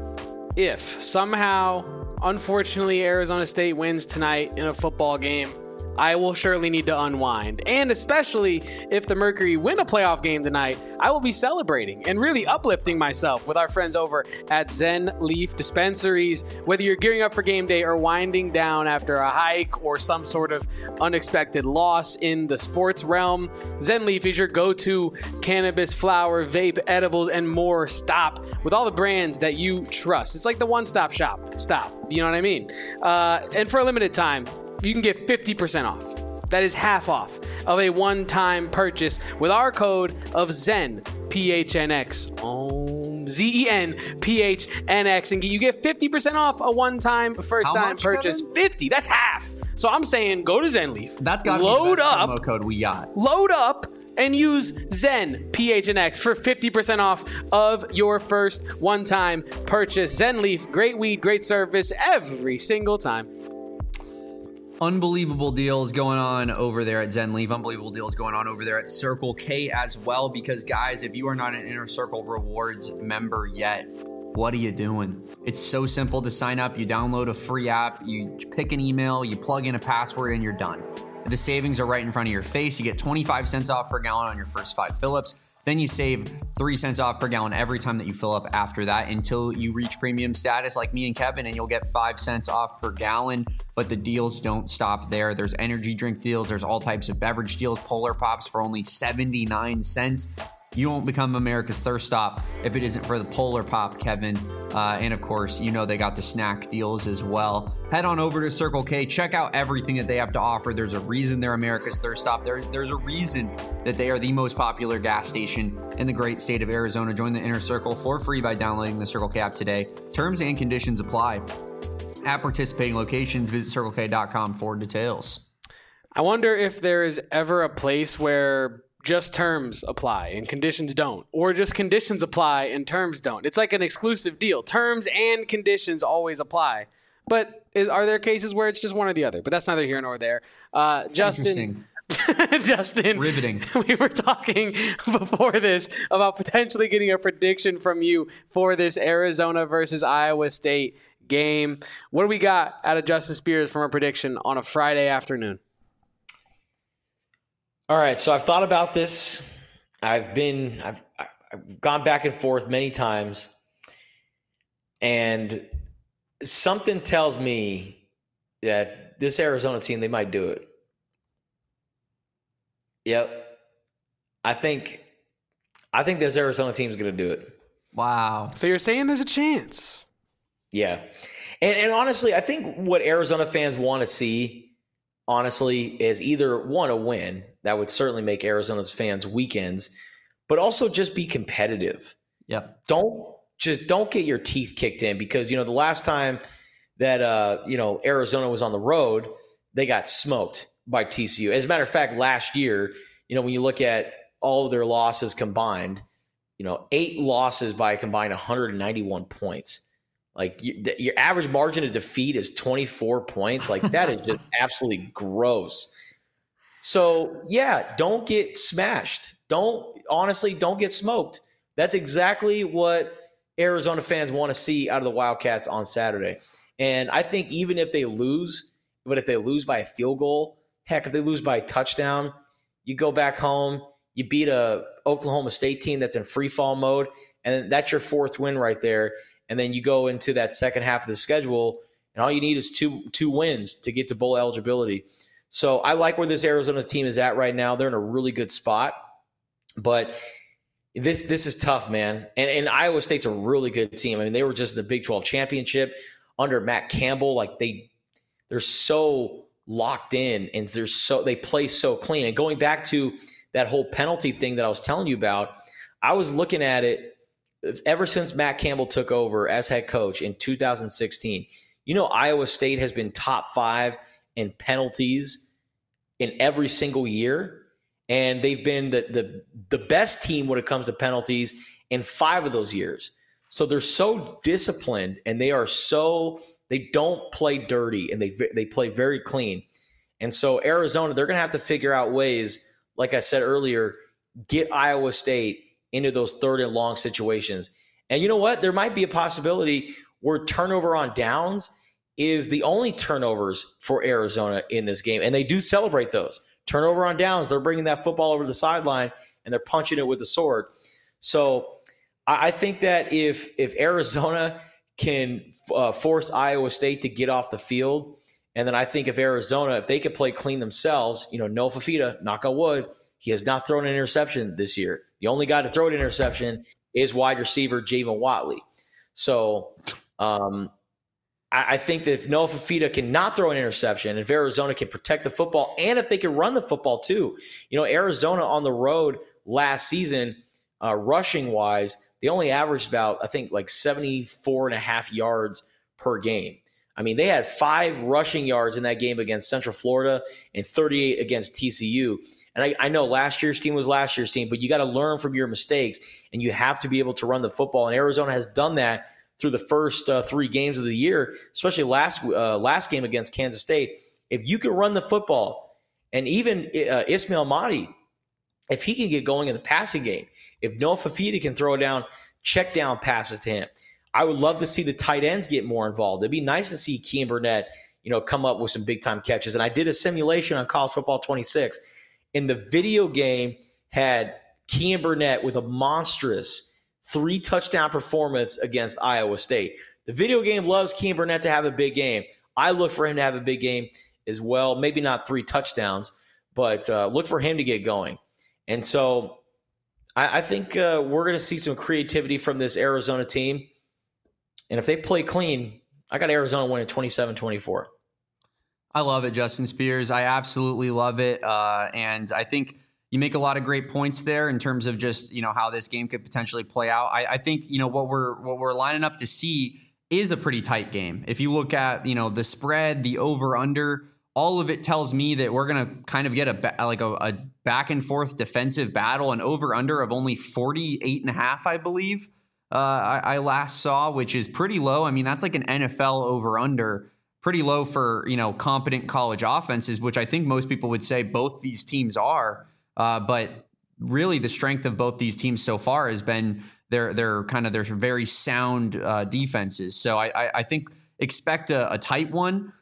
somehow, unfortunately, Arizona State wins tonight in a football game, I will surely need to unwind. And especially if the Mercury win a playoff game tonight, I will be celebrating and really uplifting myself with our friends over at Zen Leaf Dispensaries. Whether you're gearing up for game day or winding down after a hike or some sort of unexpected loss in the sports realm, Zen Leaf is your go-to cannabis, flower, vape, edibles, and more stop with all the brands that you trust. It's like the one-stop shop. Stop. You know what I mean? And for a limited time, you can get 50% off. That is half off of a one-time purchase with our code of ZEN, PHNX, ZEN, PHNX, and you get 50% off a one-time first-time purchase. Kevin? 50, that's half. So I'm saying go to Zen Leaf. That's got to be the best promo code we got. Load up and use ZEN, PHNX for 50% off of your first one-time purchase. Zen Leaf, great weed, great service every single time. Unbelievable deals going on over there at Zen Leaf. Unbelievable deals going on over there at Circle K as well. Because, guys, if you are not an Inner Circle Rewards member yet, what are you doing? It's so simple to sign up. You download a free app, you pick an email, you plug in a password, and you're done. The savings are right in front of your face. You get 25 cents off per gallon on your first 5 fill-ups. Then you save 3 cents off per gallon every time that you fill up after that until you reach premium status like me and Kevin, and you'll get 5 cents off per gallon. But the deals don't stop there. There's energy drink deals. There's all types of beverage deals. Polar Pops for only 79 cents. You won't become America's thirst stop if it isn't for the Polar Pop, Kevin. And of course, they got the snack deals as well. Head on over to Circle K. Check out everything that they have to offer. There's a reason they're America's thirst stop. There's a reason that they are the most popular gas station in the great state of Arizona. Join the Inner Circle for free by downloading the Circle K app today. Terms and conditions apply. At participating locations, visit circlek.com for details. I wonder if there is ever a place where just terms apply and conditions don't, or just conditions apply and terms don't. It's like an exclusive deal. Terms and conditions always apply. But are there cases where it's just one or the other? But that's neither here nor there. Justin, Riveting. We were talking before this about potentially getting a prediction from you for this Arizona versus Iowa State game. What do we got out of Justin Spears from a prediction on a Friday afternoon? All right, so I've thought about this. I've gone back and forth many times, and something tells me that this Arizona team, they might do it. Yep. I think this Arizona team is going to do it. Wow. So you're saying there's a chance? Yeah. And honestly, I think what Arizona fans want to see, honestly, is either one, a win. That would certainly make Arizona's fans weekends, but also just be competitive. Yep. Don't get your teeth kicked in, because, the last time that, Arizona was on the road, they got smoked by TCU. As a matter of fact, last year, when you look at all of their losses combined, 8 losses by a combined 191 points. Like, your average margin of defeat is 24 points. Like, that is just absolutely gross. So, yeah, don't get smashed. Don't get smoked. That's exactly what Arizona fans want to see out of the Wildcats on Saturday. And I think even if they lose, but if they lose by a field goal, heck, if they lose by a touchdown, you go back home, you beat a Oklahoma State team that's in free fall mode, and that's your 4th win right there. And then you go into that second half of the schedule, and all you need is two wins to get to bowl eligibility. So I like where this Arizona team is at right now. They're in a really good spot. But this is tough, man. And Iowa State's a really good team. I mean, they were just in the Big 12 championship under Matt Campbell. Like, they're so locked in, and they play so clean. And going back to that whole penalty thing that I was telling you about, I was looking at it ever since Matt Campbell took over as head coach in 2016. Iowa State has been top 5 in penalties in every single year. And they've been the best team when it comes to penalties in 5 of those years. So they're so disciplined, and they don't play dirty, and they play very clean. And so Arizona, they're going to have to figure out ways, like I said earlier, get Iowa State into those 3rd and long situations. And you know what? There might be a possibility where turnover on downs is the only turnovers for Arizona in this game. And they do celebrate those. Turnover on downs, they're bringing that football over the sideline, and they're punching it with the sword. So I think that if Arizona can force Iowa State to get off the field, and then I think if they could play clean themselves, Noah Fifita, knock on wood, he has not thrown an interception this year. The only guy to throw an interception is wide receiver Javon Watley. So I think that if Noah Fifita cannot throw an interception, if Arizona can protect the football, and if they can run the football too. Arizona on the road last season, rushing-wise, they only averaged about, I think, like 74.5 yards per game. I mean, they had 5 rushing yards in that game against Central Florida and 38 against TCU. And I know last year's team was last year's team, but you got to learn from your mistakes, and you have to be able to run the football. And Arizona has done that through the first 3 games of the year, especially last game against Kansas State. If you can run the football, and even Ismail Mahdi, if he can get going in the passing game, if Noah Fifita can throw down check down passes to him, I would love to see the tight ends get more involved. It'd be nice to see Kean Burnett, come up with some big time catches. And I did a simulation on College Football 26, and the video game had Kean Burnett with a monstrous 3 touchdown performance against Iowa State. The video game loves Kean Burnett to have a big game. I look for him to have a big game as well. Maybe not 3 touchdowns, but look for him to get going. And so I think we're going to see some creativity from this Arizona team. And if they play clean, I got Arizona winning 27-24. I love it, Justin Spears. I absolutely love it. And I think you make a lot of great points there in terms of just, how this game could potentially play out. I think, what we're lining up to see is a pretty tight game. If you look at, the spread, the over under all of it tells me that we're going to kind of get a back and forth defensive battle, an over under of only 48.5, I believe. I last saw, which is pretty low. I mean, that's like an NFL over under, pretty low for, competent college offenses, which I think most people would say both these teams are. But really the strength of both these teams so far has been their very sound defenses. So I think expect a tight one.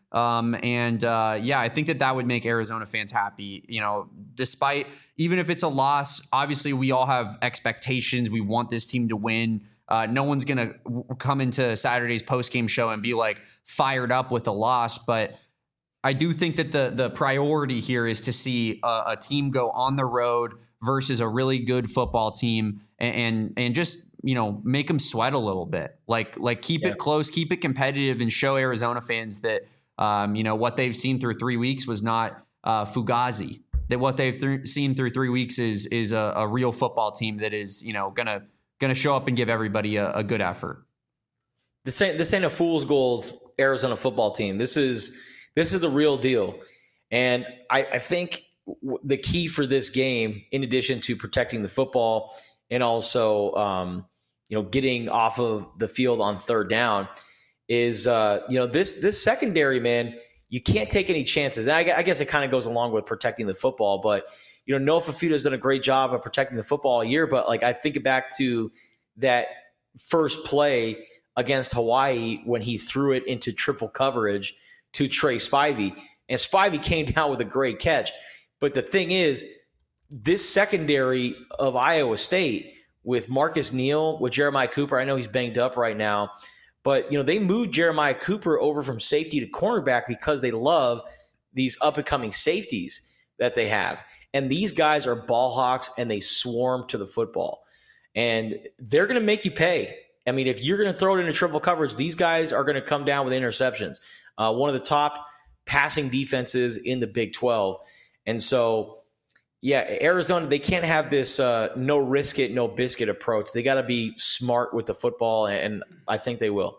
I think that would make Arizona fans happy, despite, even if it's a loss. Obviously we all have expectations. We want this team to win. No one's going to come into Saturday's post-game show and be like fired up with a loss. But I do think that the priority here is to see a team go on the road versus a really good football team and just, make them sweat a little bit, like keep it close, keep it competitive, and show Arizona fans that, what they've seen through 3 weeks was not Fugazi, that what they've seen through 3 weeks is a real football team that is, going to show up and give everybody a good effort. This ain't a fool's gold Arizona football team. This is the real deal. And I think the key for this game, in addition to protecting the football and also, getting off of the field on third down, is, this secondary, man, you can't take any chances. And I guess it kind of goes along with protecting the football, but Noah Fafita's done a great job of protecting the football all year. But I think back to that first play against Hawaii when he threw it into triple coverage to Trey Spivey, and Spivey came down with a great catch. But the thing is, this secondary of Iowa State with Marcus Neal, with Jeremiah Cooper, I know he's banged up right now, but they moved Jeremiah Cooper over from safety to cornerback because they love these up-and-coming safeties that they have. And these guys are ball hawks, and they swarm to the football. And they're going to make you pay. I mean, if you're going to throw it into triple coverage, these guys are going to come down with interceptions. One of the top passing defenses in the Big 12. And so, Arizona, they can't have this no risk it, no biscuit approach. They got to be smart with the football, and I think they will.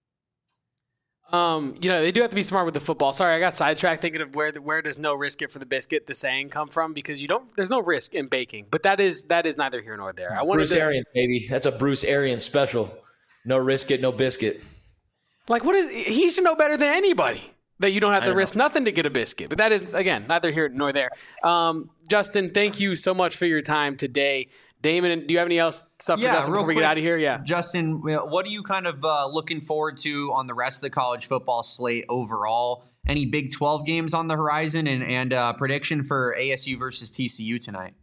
They do have to be smart with the football. Sorry, I got sidetracked thinking of where does no risk it for the biscuit the saying come from, because there's no risk in baking. But that is neither here nor there. Bruce Arians, baby. That's a Bruce Arians special. No risk it, no biscuit. He should know better than anybody that you don't have to risk nothing to get a biscuit. But that is, again, neither here nor there. Justin, thank you so much for your time today. Damon, do you have any else stuff for us before we get out of here? Yeah. Justin, what are you kind of looking forward to on the rest of the college football slate overall? Any Big 12 games on the horizon, and prediction for ASU versus TCU tonight?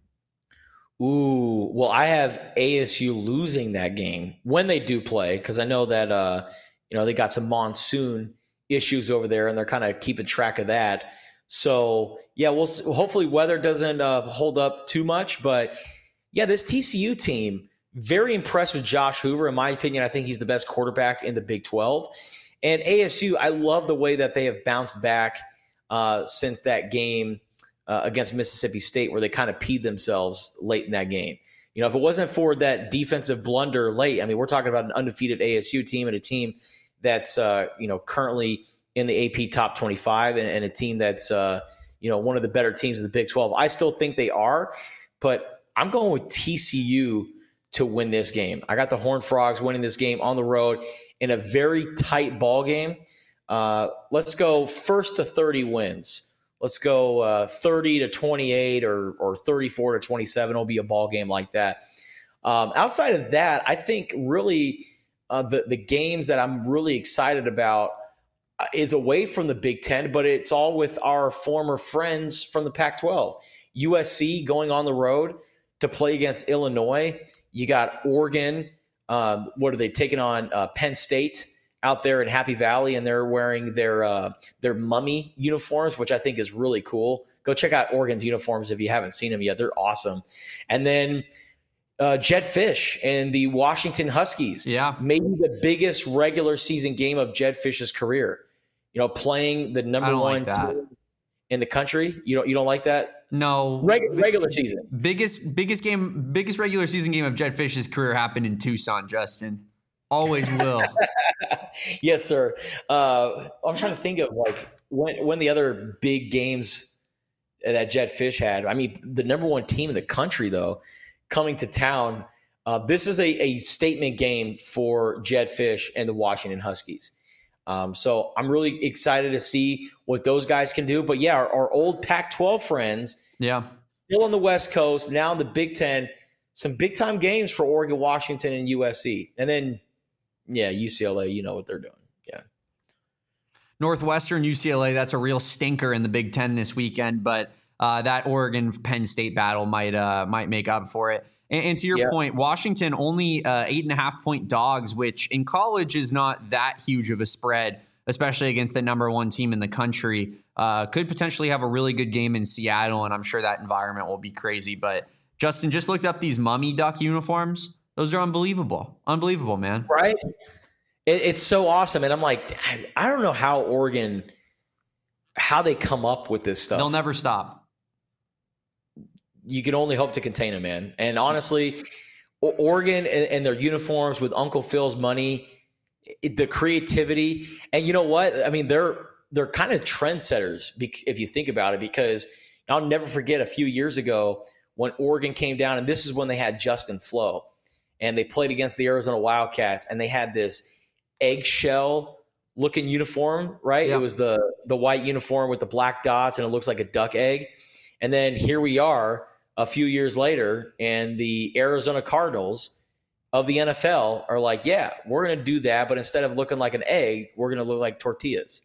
Ooh, well, I have ASU losing that game when they do play, because I know that they got some monsoon issues over there, and they're kind of keeping track of that. So, hopefully weather doesn't hold up too much, but this TCU team, very impressed with Josh Hoover. In my opinion, I think he's the best quarterback in the Big 12. And ASU, I love the way that they have bounced back since that game against Mississippi State, where they kind of peed themselves late in that game. If it wasn't for that defensive blunder late, I mean, we're talking about an undefeated ASU team and a team that's currently in the AP top 25 and a team that's one of the better teams in the Big 12. I still think they are, but I'm going with TCU to win this game. I got the Horned Frogs winning this game on the road in a very tight ball game. Let's go first to 30 wins. Let's go 30-28 or 34-27. It'll be a ball game like that. Outside of that, I think really the games that I'm really excited about is away from the Big Ten, but it's all with our former friends from the Pac-12. USC going on the road to play against Illinois. You got Oregon. What are they taking on? Penn State out there in Happy Valley, and they're wearing their mummy uniforms, which I think is really cool. Go check out Oregon's uniforms if you haven't seen them yet. They're awesome. And then Jedd Fisch and the Washington Huskies. Yeah, maybe the biggest regular season game of Jedd Fisch's career. Playing the number one team in the country. You don't like that? No. Regular season. Biggest regular season game of Jedd Fisch's career happened in Tucson, Justin. Always will. Yes, sir. I'm trying to think of when the other big games that Jedd Fisch had, I mean, the number one team in the country, though, coming to town, this is a statement game for Jedd Fisch and the Washington Huskies. So I'm really excited to see what those guys can do. But, yeah, our old Pac-12 friends, still on the West Coast, now in the Big Ten, some big-time games for Oregon, Washington, and USC. And then, yeah, UCLA, you know what they're doing. Yeah. Northwestern, UCLA, that's a real stinker in the Big Ten this weekend, but that Oregon-Penn State battle might make up for it. And to your point, Washington only 8.5-point dogs, which in college is not that huge of a spread, especially against the number one team in the country. Could potentially have a really good game in Seattle, and I'm sure that environment will be crazy. But Justin just looked up these Mummy Duck uniforms. Those are unbelievable. Unbelievable, man. Right? It's so awesome. And I'm like, I don't know how Oregon, how they come up with this stuff. They'll never stop. You can only hope to contain them, man. And honestly, Oregon and their uniforms with Uncle Phil's money, the creativity, and you know what? I mean, they're kind of trendsetters if you think about it, because I'll never forget a few years ago when Oregon came down, and this is when they had Justin Flo, and they played against the Arizona Wildcats, and they had this eggshell-looking uniform, right? Yep. It was the white uniform with the black dots, and it looks like a duck egg. And then here we are a few years later, and the Arizona Cardinals of the NFL are like, yeah, we're going to do that, but instead of looking like an egg, we're going to look like tortillas.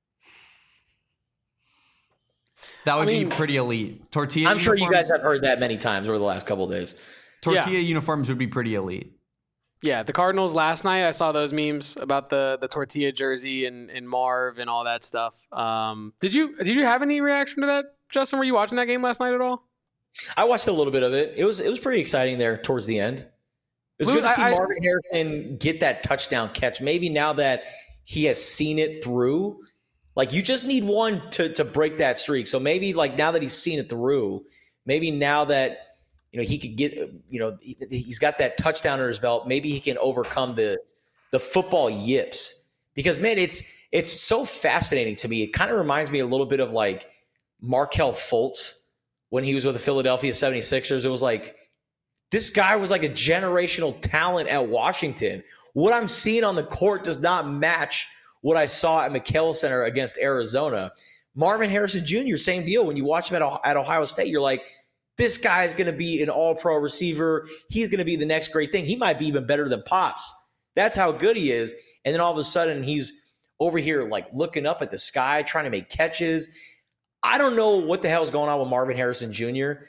That would be pretty elite. Tortilla I'm sure you guys have heard that many times over the last couple of days. Tortilla uniforms would be pretty elite. Yeah, the Cardinals last night, I saw those memes about the tortilla jersey and Marv and all that stuff. Did you have any reaction to that, Justin? Were you watching that game last night at all? I watched a little bit of it. It was pretty exciting there towards the end. It was good to see Marvin Harrison get that touchdown catch. Maybe now that he has seen it through, like, you just need one to break that streak. So maybe, like, now that he's seen it through, maybe now that, you know, he could get, you know, he's got that touchdown under his belt, maybe he can overcome the football yips. Because, man, it's so fascinating to me. It kind of reminds me a little bit of, like, Markelle Fultz when he was with the Philadelphia 76ers. It was like, this guy was like a generational talent at Washington. What I'm seeing on the court does not match what I saw at McKale Center against Arizona. Marvin Harrison Jr., same deal. When you watch him at Ohio State, you're like, this guy is going to be an all-pro receiver. He's going to be the next great thing. He might be even better than Pops. That's how good he is. And then all of a sudden, he's over here like looking up at the sky, trying to make catches. I don't know what the hell is going on with Marvin Harrison Jr.,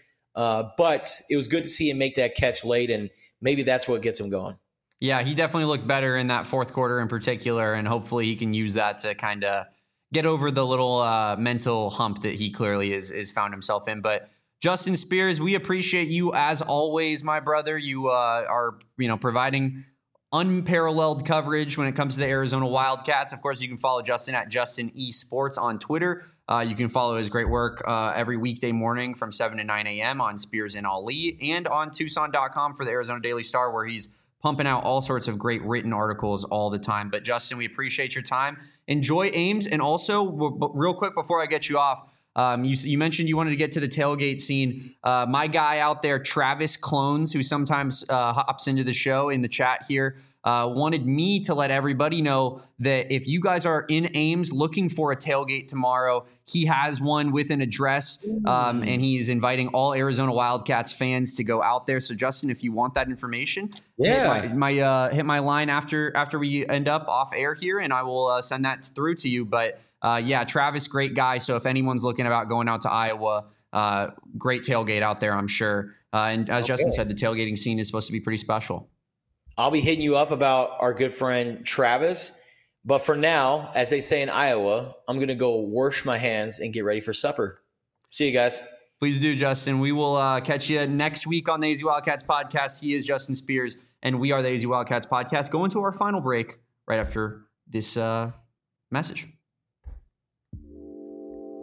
but it was good to see him make that catch late, and maybe that's what gets him going. Yeah, he definitely looked better in that fourth quarter in particular, and hopefully he can use that to kind of get over the little mental hump that he clearly is found himself in. But Justin Spears, we appreciate you as always, my brother. You are providing unparalleled coverage when it comes to the Arizona Wildcats. Of course, you can follow Justin at Justin E Sports on Twitter. You can follow his great work every weekday morning from 7 to 9 a.m. on Spears and Ali, and on Tucson.com for the Arizona Daily Star, where he's pumping out all sorts of great written articles all the time. But Justin, we appreciate your time. Enjoy Ames. And also, real quick before I get you off, you mentioned you wanted to get to the tailgate scene. My guy out there, Travis Clones, who sometimes hops into the show in the chat here, wanted me to let everybody know that if you guys are in Ames looking for a tailgate tomorrow, he has one with an address, and he's inviting all Arizona Wildcats fans to go out there. So, Justin, if you want that information, hit my line after we end up off air here, and I will send that through to you. But yeah, Travis, great guy. So if anyone's looking about going out to Iowa, great tailgate out there, I'm sure. And as Justin said, the tailgating scene is supposed to be pretty special. I'll be hitting you up about our good friend Travis. But for now, as they say in Iowa, I'm going to go wash my hands and get ready for supper. See you guys. Please do, Justin. We will catch you next week on the AZ Wildcats podcast. He is Justin Spears, and we are the AZ Wildcats podcast. Going to our final break right after this message.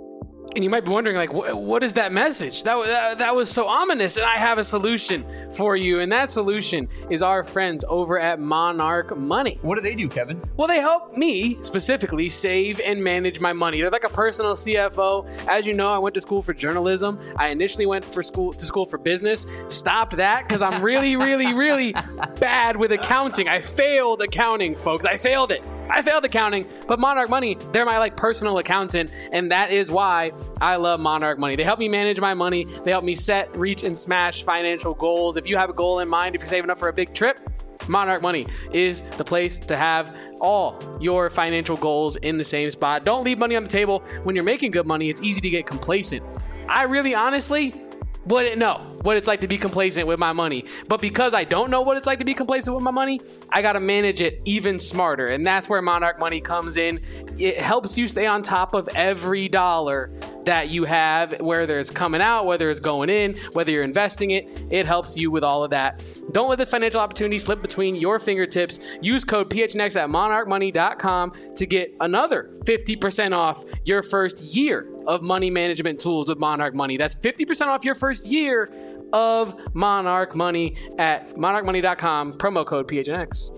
And you might be wondering, like, what is that message? That was so ominous, and I have a solution for you. And that solution is our friends over at Monarch Money. What do they do, Kevin? Well, they help me specifically save and manage my money. They're like a personal CFO. As you know, I went to school for journalism. I initially went to school for business. Stopped that because I'm really, really, really bad with accounting. I failed accounting, folks. I failed it. I failed accounting, but Monarch Money, they're my personal accountant, and that is why I love Monarch Money. They help me manage my money. They help me set, reach, and smash financial goals. If you have a goal in mind, if you're saving up for a big trip, Monarch Money is the place to have all your financial goals in the same spot. Don't leave money on the table. When you're making good money, it's easy to get complacent. I really honestly wouldn't know what it's like to be complacent with my money. But because I don't know what it's like to be complacent with my money, I got to manage it even smarter. And that's where Monarch Money comes in. It helps you stay on top of every dollar that you have, whether it's coming out, whether it's going in, whether you're investing it. It helps you with all of that. Don't let this financial opportunity slip between your fingertips. Use code PHNX at monarchmoney.com to get another 50% off your first year of money management tools with Monarch Money. That's 50% off your first year of Monarch Money at monarchmoney.com, promo code PHNX.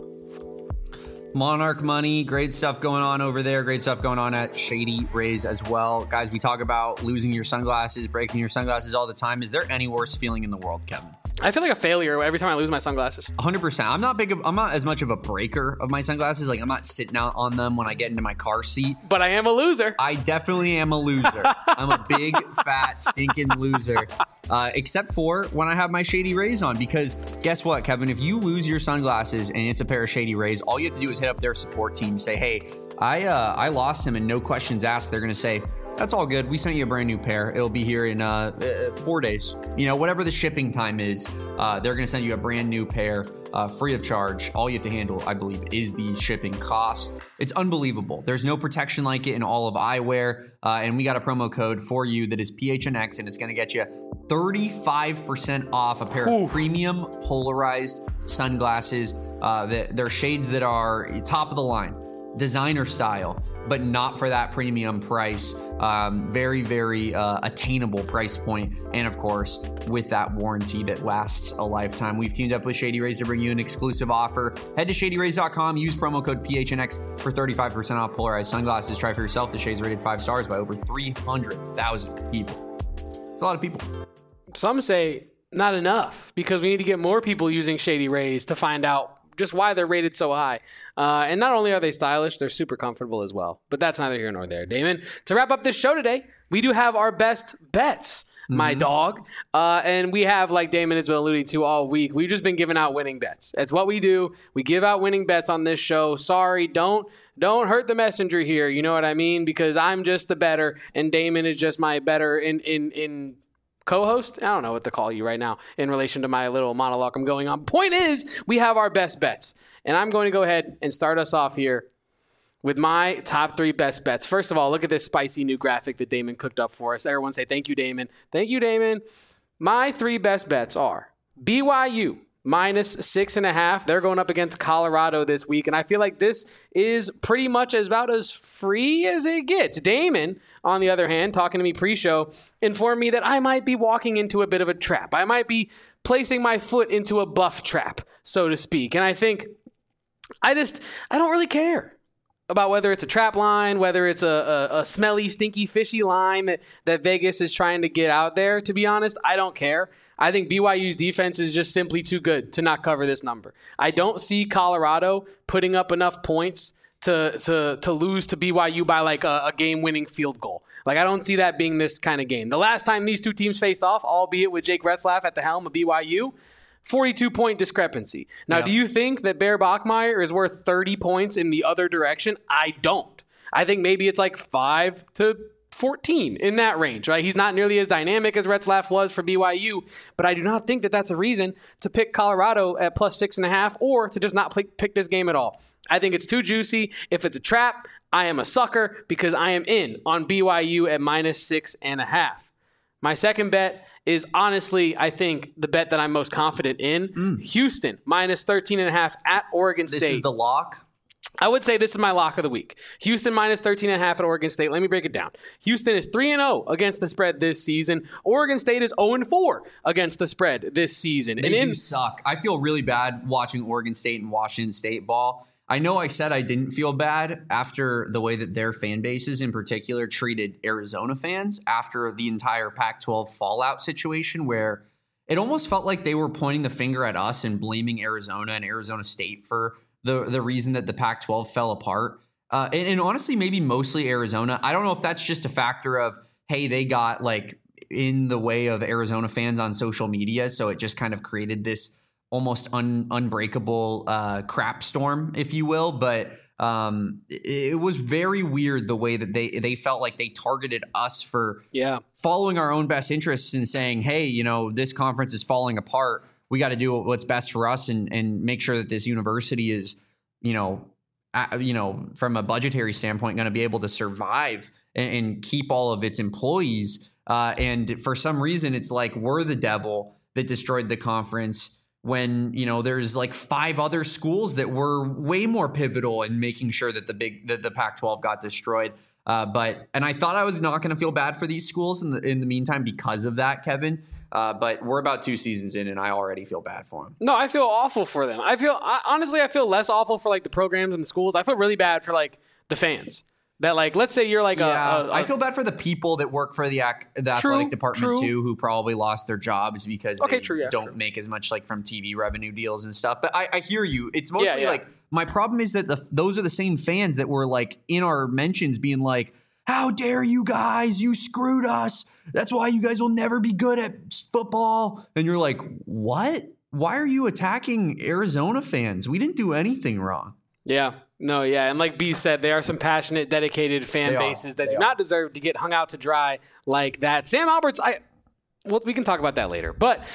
Monarch Money, great stuff going on over there. Great stuff going on at Shady Rays as well. Guys, we talk about losing your sunglasses, breaking your sunglasses all the time. Is there any worse feeling in the world, Kevin? I feel like a failure every time I lose my sunglasses. 100%. I'm not as much of a breaker of my sunglasses. Like, I'm not sitting out on them when I get into my car seat. But I am a loser. I definitely am a loser. I'm a big, fat, stinking loser. Except for when I have my Shady Rays on. Because guess what, Kevin? If you lose your sunglasses and it's a pair of Shady Rays, all you have to do is hit up their support team. Say, hey, I lost them, and no questions asked. They're going to say, that's all good. We sent you a brand new pair. It'll be here in 4 days. You know, whatever the shipping time is, they're going to send you a brand new pair free of charge. All you have to handle, I believe, is the shipping cost. It's unbelievable. There's no protection like it in all of eyewear. And we got a promo code for you that is PHNX, and it's going to get you 35% off a pair of premium polarized sunglasses. They're shades that are top of the line, designer style, but not for that premium price. Very, very attainable price point. And of course, with that warranty that lasts a lifetime. We've teamed up with Shady Rays to bring you an exclusive offer. Head to shadyrays.com, use promo code PHNX for 35% off polarized sunglasses. Try for yourself. The shades rated 5 stars by over 300,000 people. It's a lot of people. Some say not enough, because we need to get more people using Shady Rays to find out just why they're rated so high. And not only are they stylish, they're super comfortable as well. But that's neither here nor there. Damon, to wrap up this show today, we do have our best bets, my dog. And we have, like Damon has been alluding to all week, we've just been giving out winning bets. It's what we do. We give out winning bets on this show. Sorry, don't hurt the messenger here. You know what I mean? Because I'm just the better, and Damon is just my better in co-host? I don't know what to call you right now in relation to my little monologue I'm going on. Point is, we have our best bets. And I'm going to go ahead and start us off here with my top 3 best bets. First of all, look at this spicy new graphic that Damon cooked up for us. Everyone say thank you, Damon. Thank you, Damon. My 3 best bets are BYU minus 6.5. They're going up against Colorado this week. And I feel like this is pretty much about as free as it gets. Damon, on the other hand, talking to me pre-show, informed me that I might be walking into a bit of a trap. I might be placing my foot into a buff trap, so to speak. And I think I don't really care about whether it's a trap line, whether it's a smelly, stinky, fishy line that Vegas is trying to get out there. To be honest, I don't care. I think BYU's defense is just simply too good to not cover this number. I don't see Colorado putting up enough points to lose to BYU by like a game-winning field goal. Like, I don't see that being this kind of game. The last time these two teams faced off, albeit with Jake Retzlaff at the helm of BYU, 42-point discrepancy. Now, do you think that Bear Bachmeier is worth 30 points in the other direction? I don't. I think maybe it's like 5 to 14 in that range, right? He's not nearly as dynamic as Retzlaff was for BYU, but I do not think that that's a reason to pick Colorado at plus 6.5 or to just not pick this game at all. I think it's too juicy. If it's a trap, I am a sucker because I am in on BYU at minus 6.5. My second bet is honestly, I think, the bet that I'm most confident in. Houston, minus 13.5 at Oregon State. This is the lock? I would say this is my lock of the week. Houston minus 13.5 at Oregon State. Let me break it down. Houston is 3-0 against the spread this season. Oregon State is 0-4 against the spread this season. They do suck. I feel really bad watching Oregon State and Washington State ball. I know I said I didn't feel bad after the way that their fan bases in particular treated Arizona fans after the entire Pac-12 fallout situation, where it almost felt like they were pointing the finger at us and blaming Arizona and Arizona State for the reason that the Pac-12 fell apart. And honestly, maybe mostly Arizona. I don't know if that's just a factor of, hey, they got like in the way of Arizona fans on social media, so it just kind of created this almost unbreakable crap storm, if you will. But it was very weird the way that they felt like they targeted us for following our own best interests and saying, hey, you know, this conference is falling apart. We got to do what's best for us and make sure that this university is, from a budgetary standpoint, going to be able to survive and keep all of its employees. And for some reason, it's like we're the devil that destroyed the conference when, there's like 5 other schools that were way more pivotal in making sure that the Pac-12 got destroyed. And I thought I was not going to feel bad for these schools in the meantime because of that, Kevin. But we're about 2 seasons in, and I already feel bad for them. No, I feel awful for them. Honestly, I feel less awful for like the programs and the schools. I feel really bad for like the fans. That like, let's say you're like I feel bad for the people that work for the athletic department too, who probably lost their jobs because they don't make as much like from TV revenue deals and stuff. But I hear you. It's mostly like my problem is that those are the same fans that were like in our mentions being like, how dare you guys? You screwed us. That's why you guys will never be good at football. And you're like, what? Why are you attacking Arizona fans? We didn't do anything wrong. Yeah. No, yeah. And like B said, there are some passionate, dedicated fan bases that do not deserve to get hung out to dry like that. Sam Alberts, we can talk about that later. But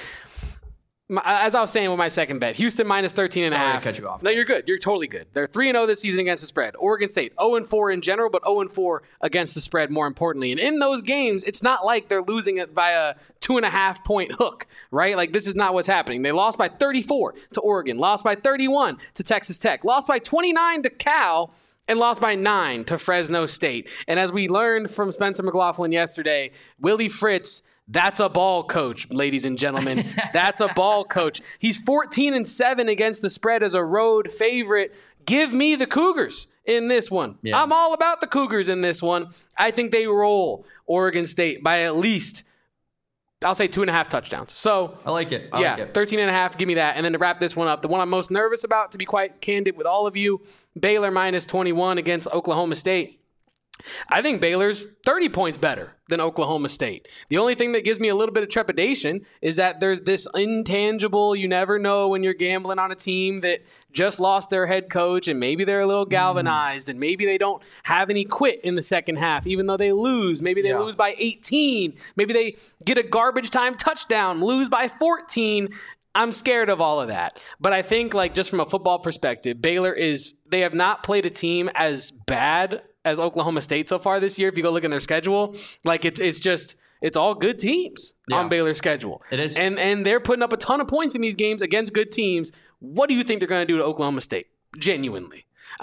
as I was saying with my second bet, Houston minus 13.5. Sorry to cut you off. No, you're good. You're totally good. They're 3-0 this season against the spread. Oregon State 0-4 in general, but 0-4 against the spread more importantly. And in those games, it's not like they're losing it by a 2.5 point hook, right? Like this is not what's happening. They lost by 34 to Oregon, lost by 31 to Texas Tech, lost by 29 to Cal, and lost by 9 to Fresno State. And as we learned from Spencer McLaughlin yesterday, Willie Fritz, that's a ball coach, ladies and gentlemen. That's a ball coach. He's 14-7 against the spread as a road favorite. Give me the Cougars in this one. Yeah. I'm all about the Cougars in this one. I think they roll Oregon State by at least, I'll say 2.5 touchdowns. So I like it. 13.5. Give me that. And then to wrap this one up, the one I'm most nervous about, to be quite candid with all of you, Baylor minus 21 against Oklahoma State. I think Baylor's 30 points better than Oklahoma State. The only thing that gives me a little bit of trepidation is that there's this intangible, you never know when you're gambling on a team that just lost their head coach and maybe they're a little galvanized and maybe they don't have any quit in the second half, even though they lose. Maybe they lose by 18. Maybe they get a garbage time touchdown, lose by 14. I'm scared of all of that. But I think like just from a football perspective, they have not played a team as bad as Oklahoma State so far this year. If you go look in their schedule, like it's all good teams on Baylor's schedule. It is. And they're putting up a ton of points in these games against good teams. What do you think they're going to do to Oklahoma State? Genuinely.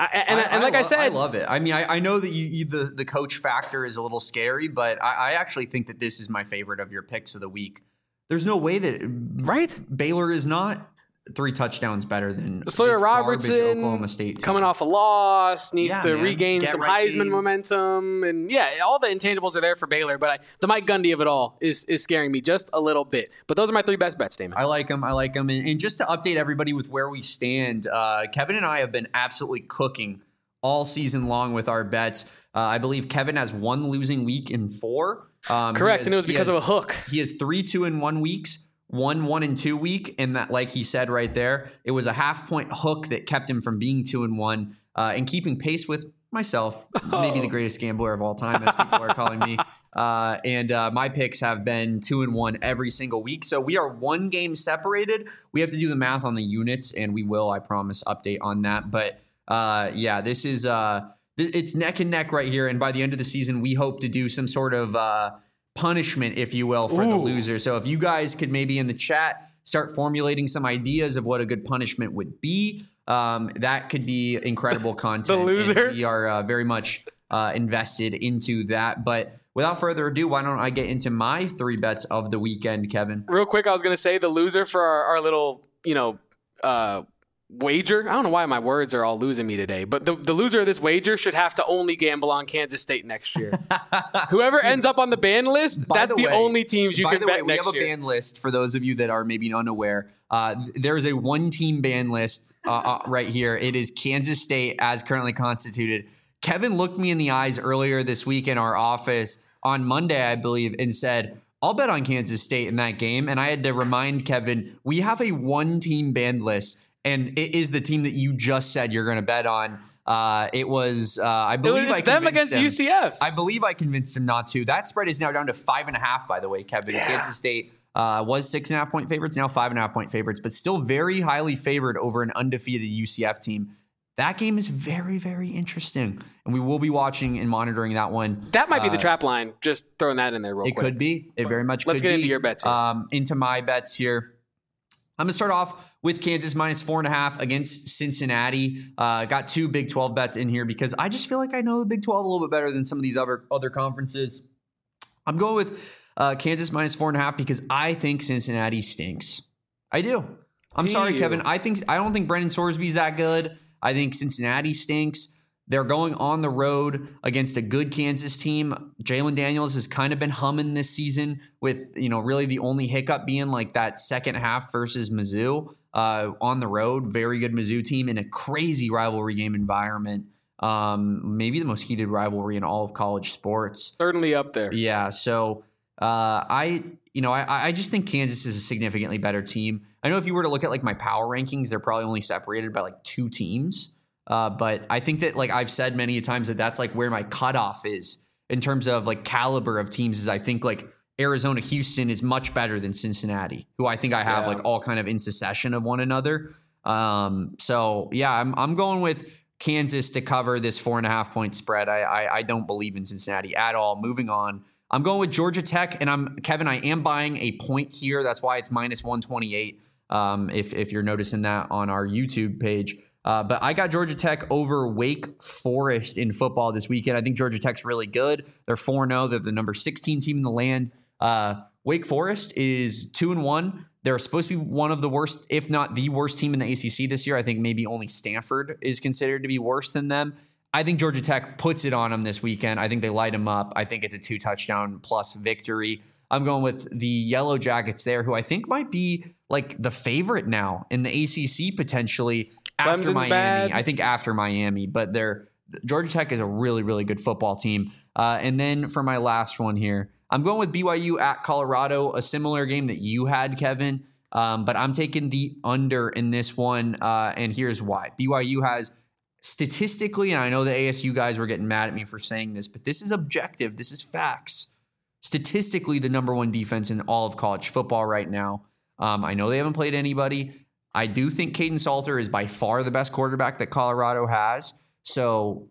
I said, I love it. I mean, I know that the coach factor is a little scary, but I actually think that this is my favorite of your picks of the week. There's no way that Baylor is not 3 touchdowns better than Sawyer Robertson, Oklahoma State team. Coming off a loss, needs to regain some Heisman momentum, and all the intangibles are there for Baylor. But the Mike Gundy of it all is scaring me just a little bit. But those are my 3 best bets, Damon. I like them. And just to update everybody with where we stand, Kevin and I have been absolutely cooking all season long with our bets. I believe Kevin has 1 losing week in 4. Correct, and it was because of a hook. He has 3 2-1 weeks, 1 1-2 week, and that, like he said right there, it was a half-point hook that kept him from being 2-1 and keeping pace with myself, maybe the greatest gambler of all time, as people are calling me. And my picks have been 2-1 every single week, so we are 1 game separated. We have to do the math on the units, and we will, I promise, update on that. But this is it's neck and neck right here, and by the end of the season, we hope to do some sort of punishment, if you will, for the loser. So if you guys could maybe in the chat start formulating some ideas of what a good punishment would be, That could be incredible content. The loser. And we are very much invested into that. But without further ado, why don't I get into my 3 bets of the weekend, Kevin? Real quick, I was going to say the loser for our little, wager. I don't know why my words are all losing me today, but the loser of this wager should have to only gamble on Kansas State next year. Whoever ends up on the ban list, that's the only teams you can bet next year. We have a ban list for those of you that are maybe unaware. There's a 1-team ban list right here. It is Kansas State as currently constituted. Kevin looked me in the eyes earlier this week in our office on Monday, I believe, and said, I'll bet on Kansas State in that game. And I had to remind Kevin, we have a 1-team ban list. And it is the team that you just said you're going to bet on. It was, I believe, it's them against UCF. I believe I convinced him not to. That spread is now down to 5.5. By the way, Kevin, Kansas State was 6.5-point favorites, now 5.5-point favorites, but still very highly favored over an undefeated UCF team. That game is very, very interesting, and we will be watching and monitoring that one. That might be the trap line. Just throwing that in there real quick. It could be. It very much could be. Let's get into your bets here. Into my bets here. I'm going to start off with Kansas minus 4.5 against Cincinnati. Got 2 Big 12 bets in here because I just feel like I know the Big 12 a little bit better than some of these other conferences. I'm going with Kansas minus 4.5 because I think Cincinnati stinks. I do. I'm sorry, Kevin. I don't think Brendan Sorsby's that good. I think Cincinnati stinks. They're going on the road against a good Kansas team. Jalen Daniels has kind of been humming this season with, really the only hiccup being like that second half versus Mizzou on the road. Very good Mizzou team in a crazy rivalry game environment. Maybe the most heated rivalry in all of college sports. Certainly up there. Yeah. So I just think Kansas is a significantly better team. I know if you were to look at like my power rankings, they're probably only separated by like 2 teams. But I think that, like I've said many times, that's like where my cutoff is in terms of like caliber of teams. Is I think like Arizona, Houston is much better than Cincinnati, who I think I have like all kind of in succession of one another. So yeah, I'm going with Kansas to cover this 4.5-point spread. I don't believe in Cincinnati at all. Moving on, I'm going with Georgia Tech, and Kevin. I am buying a point here. That's why it's minus 128. If you're noticing that on our YouTube page. But I got Georgia Tech over Wake Forest in football this weekend. I think Georgia Tech's really good. They're 4-0. They're the number 16 team in the land. Wake Forest is 2-1. They're supposed to be one of the worst, if not the worst team in the ACC this year. I think maybe only Stanford is considered to be worse than them. I think Georgia Tech puts it on them this weekend. I think they light them up. I think it's a 2-touchdown plus victory. I'm going with the Yellow Jackets there, who I think might be like the favorite now in the ACC potentially. After Clemson's Miami, bad. I think after Miami, but Georgia Tech is a really, really good football team. And then for my last one here, I'm going with BYU at Colorado, a similar game that you had, Kevin. But I'm taking the under in this one, and here's why. BYU has statistically, and I know the ASU guys were getting mad at me for saying this, but this is objective. This is facts. Statistically, the number 1 defense in all of college football right now. I know they haven't played anybody. I do think Caden Salter is by far the best quarterback that Colorado has. So,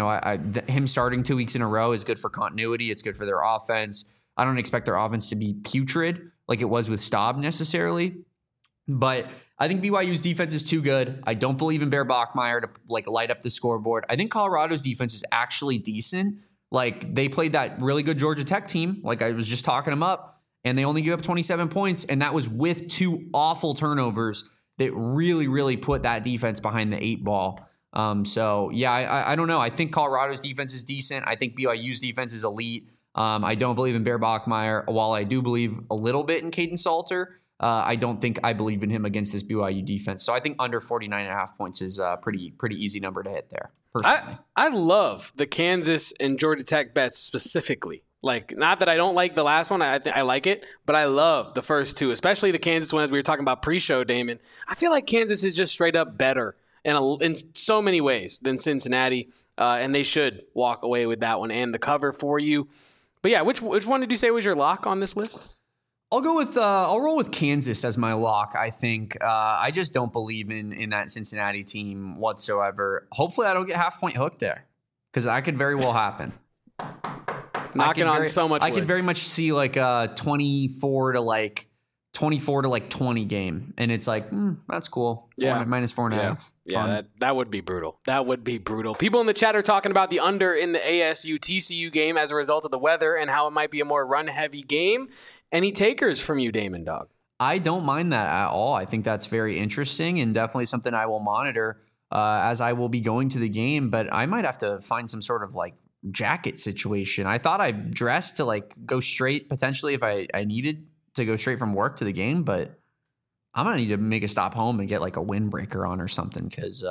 him starting 2 weeks in a row is good for continuity. It's good for their offense. I don't expect their offense to be putrid like it was with Staub necessarily. But I think BYU's defense is too good. I don't believe in Bear Bachmeier to like light up the scoreboard. I think Colorado's defense is actually decent. Like they played that really good Georgia Tech team. Like I was just talking them up, and they only gave up 27 points. And that was with 2 awful turnovers that really, really put that defense behind the 8 ball. So, yeah, I don't know. I think Colorado's defense is decent. I think BYU's defense is elite. I don't believe in Bear Bachmeier. While I do believe a little bit in Caden Salter, I don't think I believe in him against this BYU defense. So I think under 49.5 points is a pretty easy number to hit there, personally. I love the Kansas and Georgia Tech bets specifically. Like, not that I don't like the last one. I like it, but I love the first 2, especially the Kansas one as we were talking about pre-show, Damon. I feel like Kansas is just straight up better in so many ways than Cincinnati, and they should walk away with that one and the cover for you. But yeah, which one did you say was your lock on this list? I'll go with I'll roll with Kansas as my lock. I think I just don't believe in that Cincinnati team whatsoever. Hopefully, I don't get half-point hooked there because that could very well happen. Knocking on so much wood. I could very much see like a 24 to like 24 to like 20 game. And it's like, that's cool. Yeah. Minus 4.5. Yeah, that would be brutal. That would be brutal. People in the chat are talking about the under in the ASU TCU game as a result of the weather and how it might be a more run-heavy game. Any takers from you, Damon Dog? I don't mind that at all. I think that's very interesting and definitely something I will monitor as I will be going to the game. But I might have to find some sort of like jacket situation. I thought I dressed to like go straight potentially if I needed to go straight from work to the game, but I'm going to need to make a stop home and get like a windbreaker on or something. Cause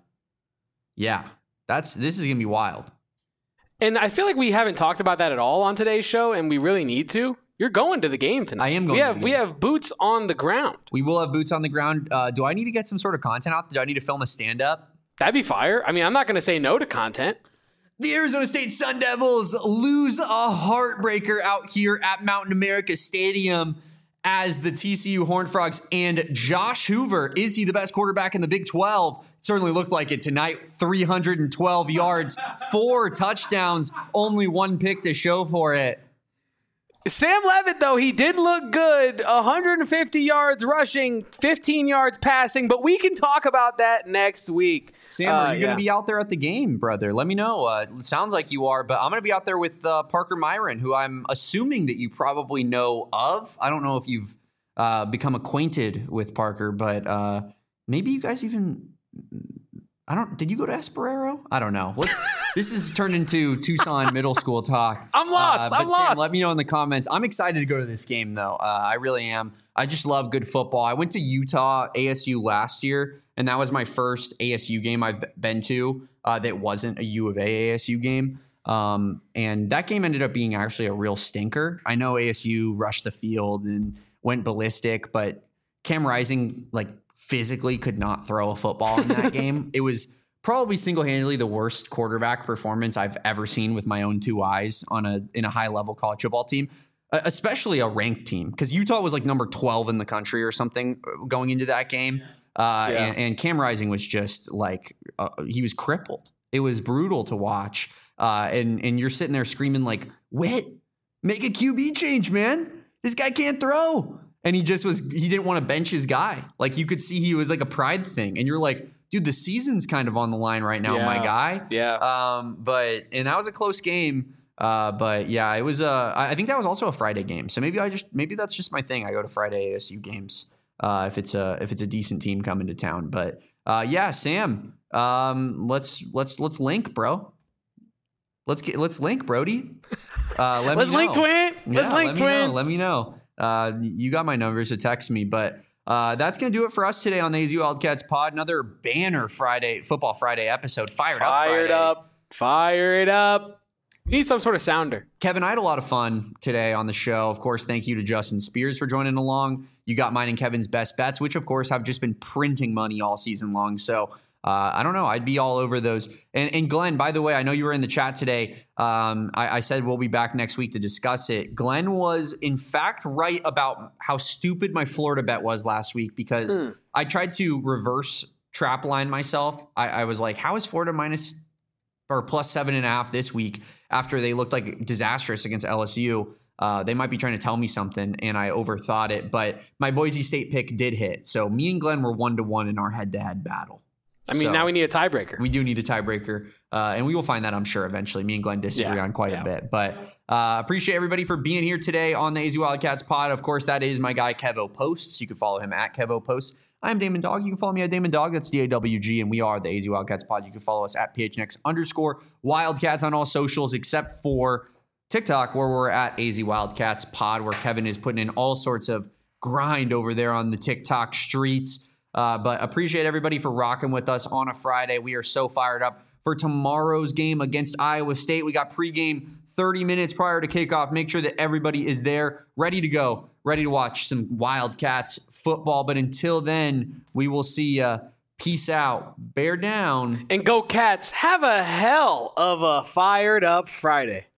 this is going to be wild. And I feel like we haven't talked about that at all on today's show. And we really need to. You're going to the game tonight. I am going to the game. We have boots on the ground. We will have boots on the ground. Do I need to get some sort of content out? Do I need to film a stand up? That'd be fire. I mean, I'm not going to say no to content. The Arizona State Sun Devils lose a heartbreaker out here at Mountain America Stadium as the TCU Horned Frogs and Josh Hoover. Is he the best quarterback in the Big 12? Certainly looked like it tonight. 312 yards, 4 touchdowns, only 1 pick to show for it. Sam Levitt, though, he did look good. 150 yards rushing, 15 yards passing, but we can talk about that next week. Sam, are you going to be out there at the game, brother? Let me know. It sounds like you are, but I'm going to be out there with Parker Myron, who I'm assuming that you probably know of. I don't know if you've become acquainted with Parker, but maybe you guys even... did you go to Esperero? I don't know. This has turned into Tucson middle school talk. I'm lost. I'm lost. Sam, let me know in the comments. I'm excited to go to this game, though. I really am. I just love good football. I went to Utah ASU last year, and that was my first ASU game I've been to that wasn't a U of A ASU game. And that game ended up being actually a real stinker. I know ASU rushed the field and went ballistic, but Cam Rising, physically could not throw a football in that game. It was probably single-handedly the worst quarterback performance I've ever seen with my own 2 eyes in a high-level college football team, especially a ranked team, because Utah was number 12 in the country or something going into that game. And Cam Rising was just he was crippled. It was brutal to watch. And you're sitting there screaming Whit, make a QB change, man. This guy can't throw. And he didn't want to bench his guy. You could see he was a pride thing. And you're like, dude, the season's kind of on the line right now, my guy. Yeah. And that was a close game. But yeah, it was I think that was also a Friday game. So maybe that's just my thing. I go to Friday ASU games if it's a decent team coming to town. But yeah, Sam, let's link, bro. Let's link, Brody. Let's link, twin. Let's link, twin. Let me know. You got my number, so text me. But that's going to do it for us today on the AZ Wildcats pod. Another banner Football Friday episode. Fired up. Fire it up. You need some sort of sounder. Kevin, I had a lot of fun today on the show. Of course, thank you to Justin Spears for joining along. You got mine and Kevin's best bets, which, of course, have just been printing money all season long. So I don't know. I'd be all over those. And Glenn, by the way, I know you were in the chat today. I said we'll be back next week to discuss it. Glenn was, in fact, right about how stupid my Florida bet was last week because I tried to reverse trap line myself. I was like, how is Florida minus or plus 7.5 this week after they looked disastrous against LSU? They might be trying to tell me something, and I overthought it. But my Boise State pick did hit. So me and Glenn were 1-1 in our head-to-head battle. Now we need a tiebreaker. We do need a tiebreaker, and we will find that, I'm sure, eventually. Me and Glenn disagree on quite a bit. But appreciate everybody for being here today on the AZ Wildcats pod. Of course, that is my guy, Kevo Posts. You can follow him at Kevo Posts. I'm Damon Dog. You can follow me at Damon Dog. That's DAWG, and we are the AZ Wildcats pod. You can follow us at PHNX_Wildcats on all socials except for TikTok, where we're at AZ Wildcats pod, where Kevin is putting in all sorts of grind over there on the TikTok streets. But appreciate everybody for rocking with us on a Friday. We are so fired up for tomorrow's game against Iowa State. We got pregame 30 minutes prior to kickoff. Make sure that everybody is there, ready to go, ready to watch some Wildcats football. But until then, we will see ya. Peace out. Bear down. And go Cats. Have a hell of a fired up Friday.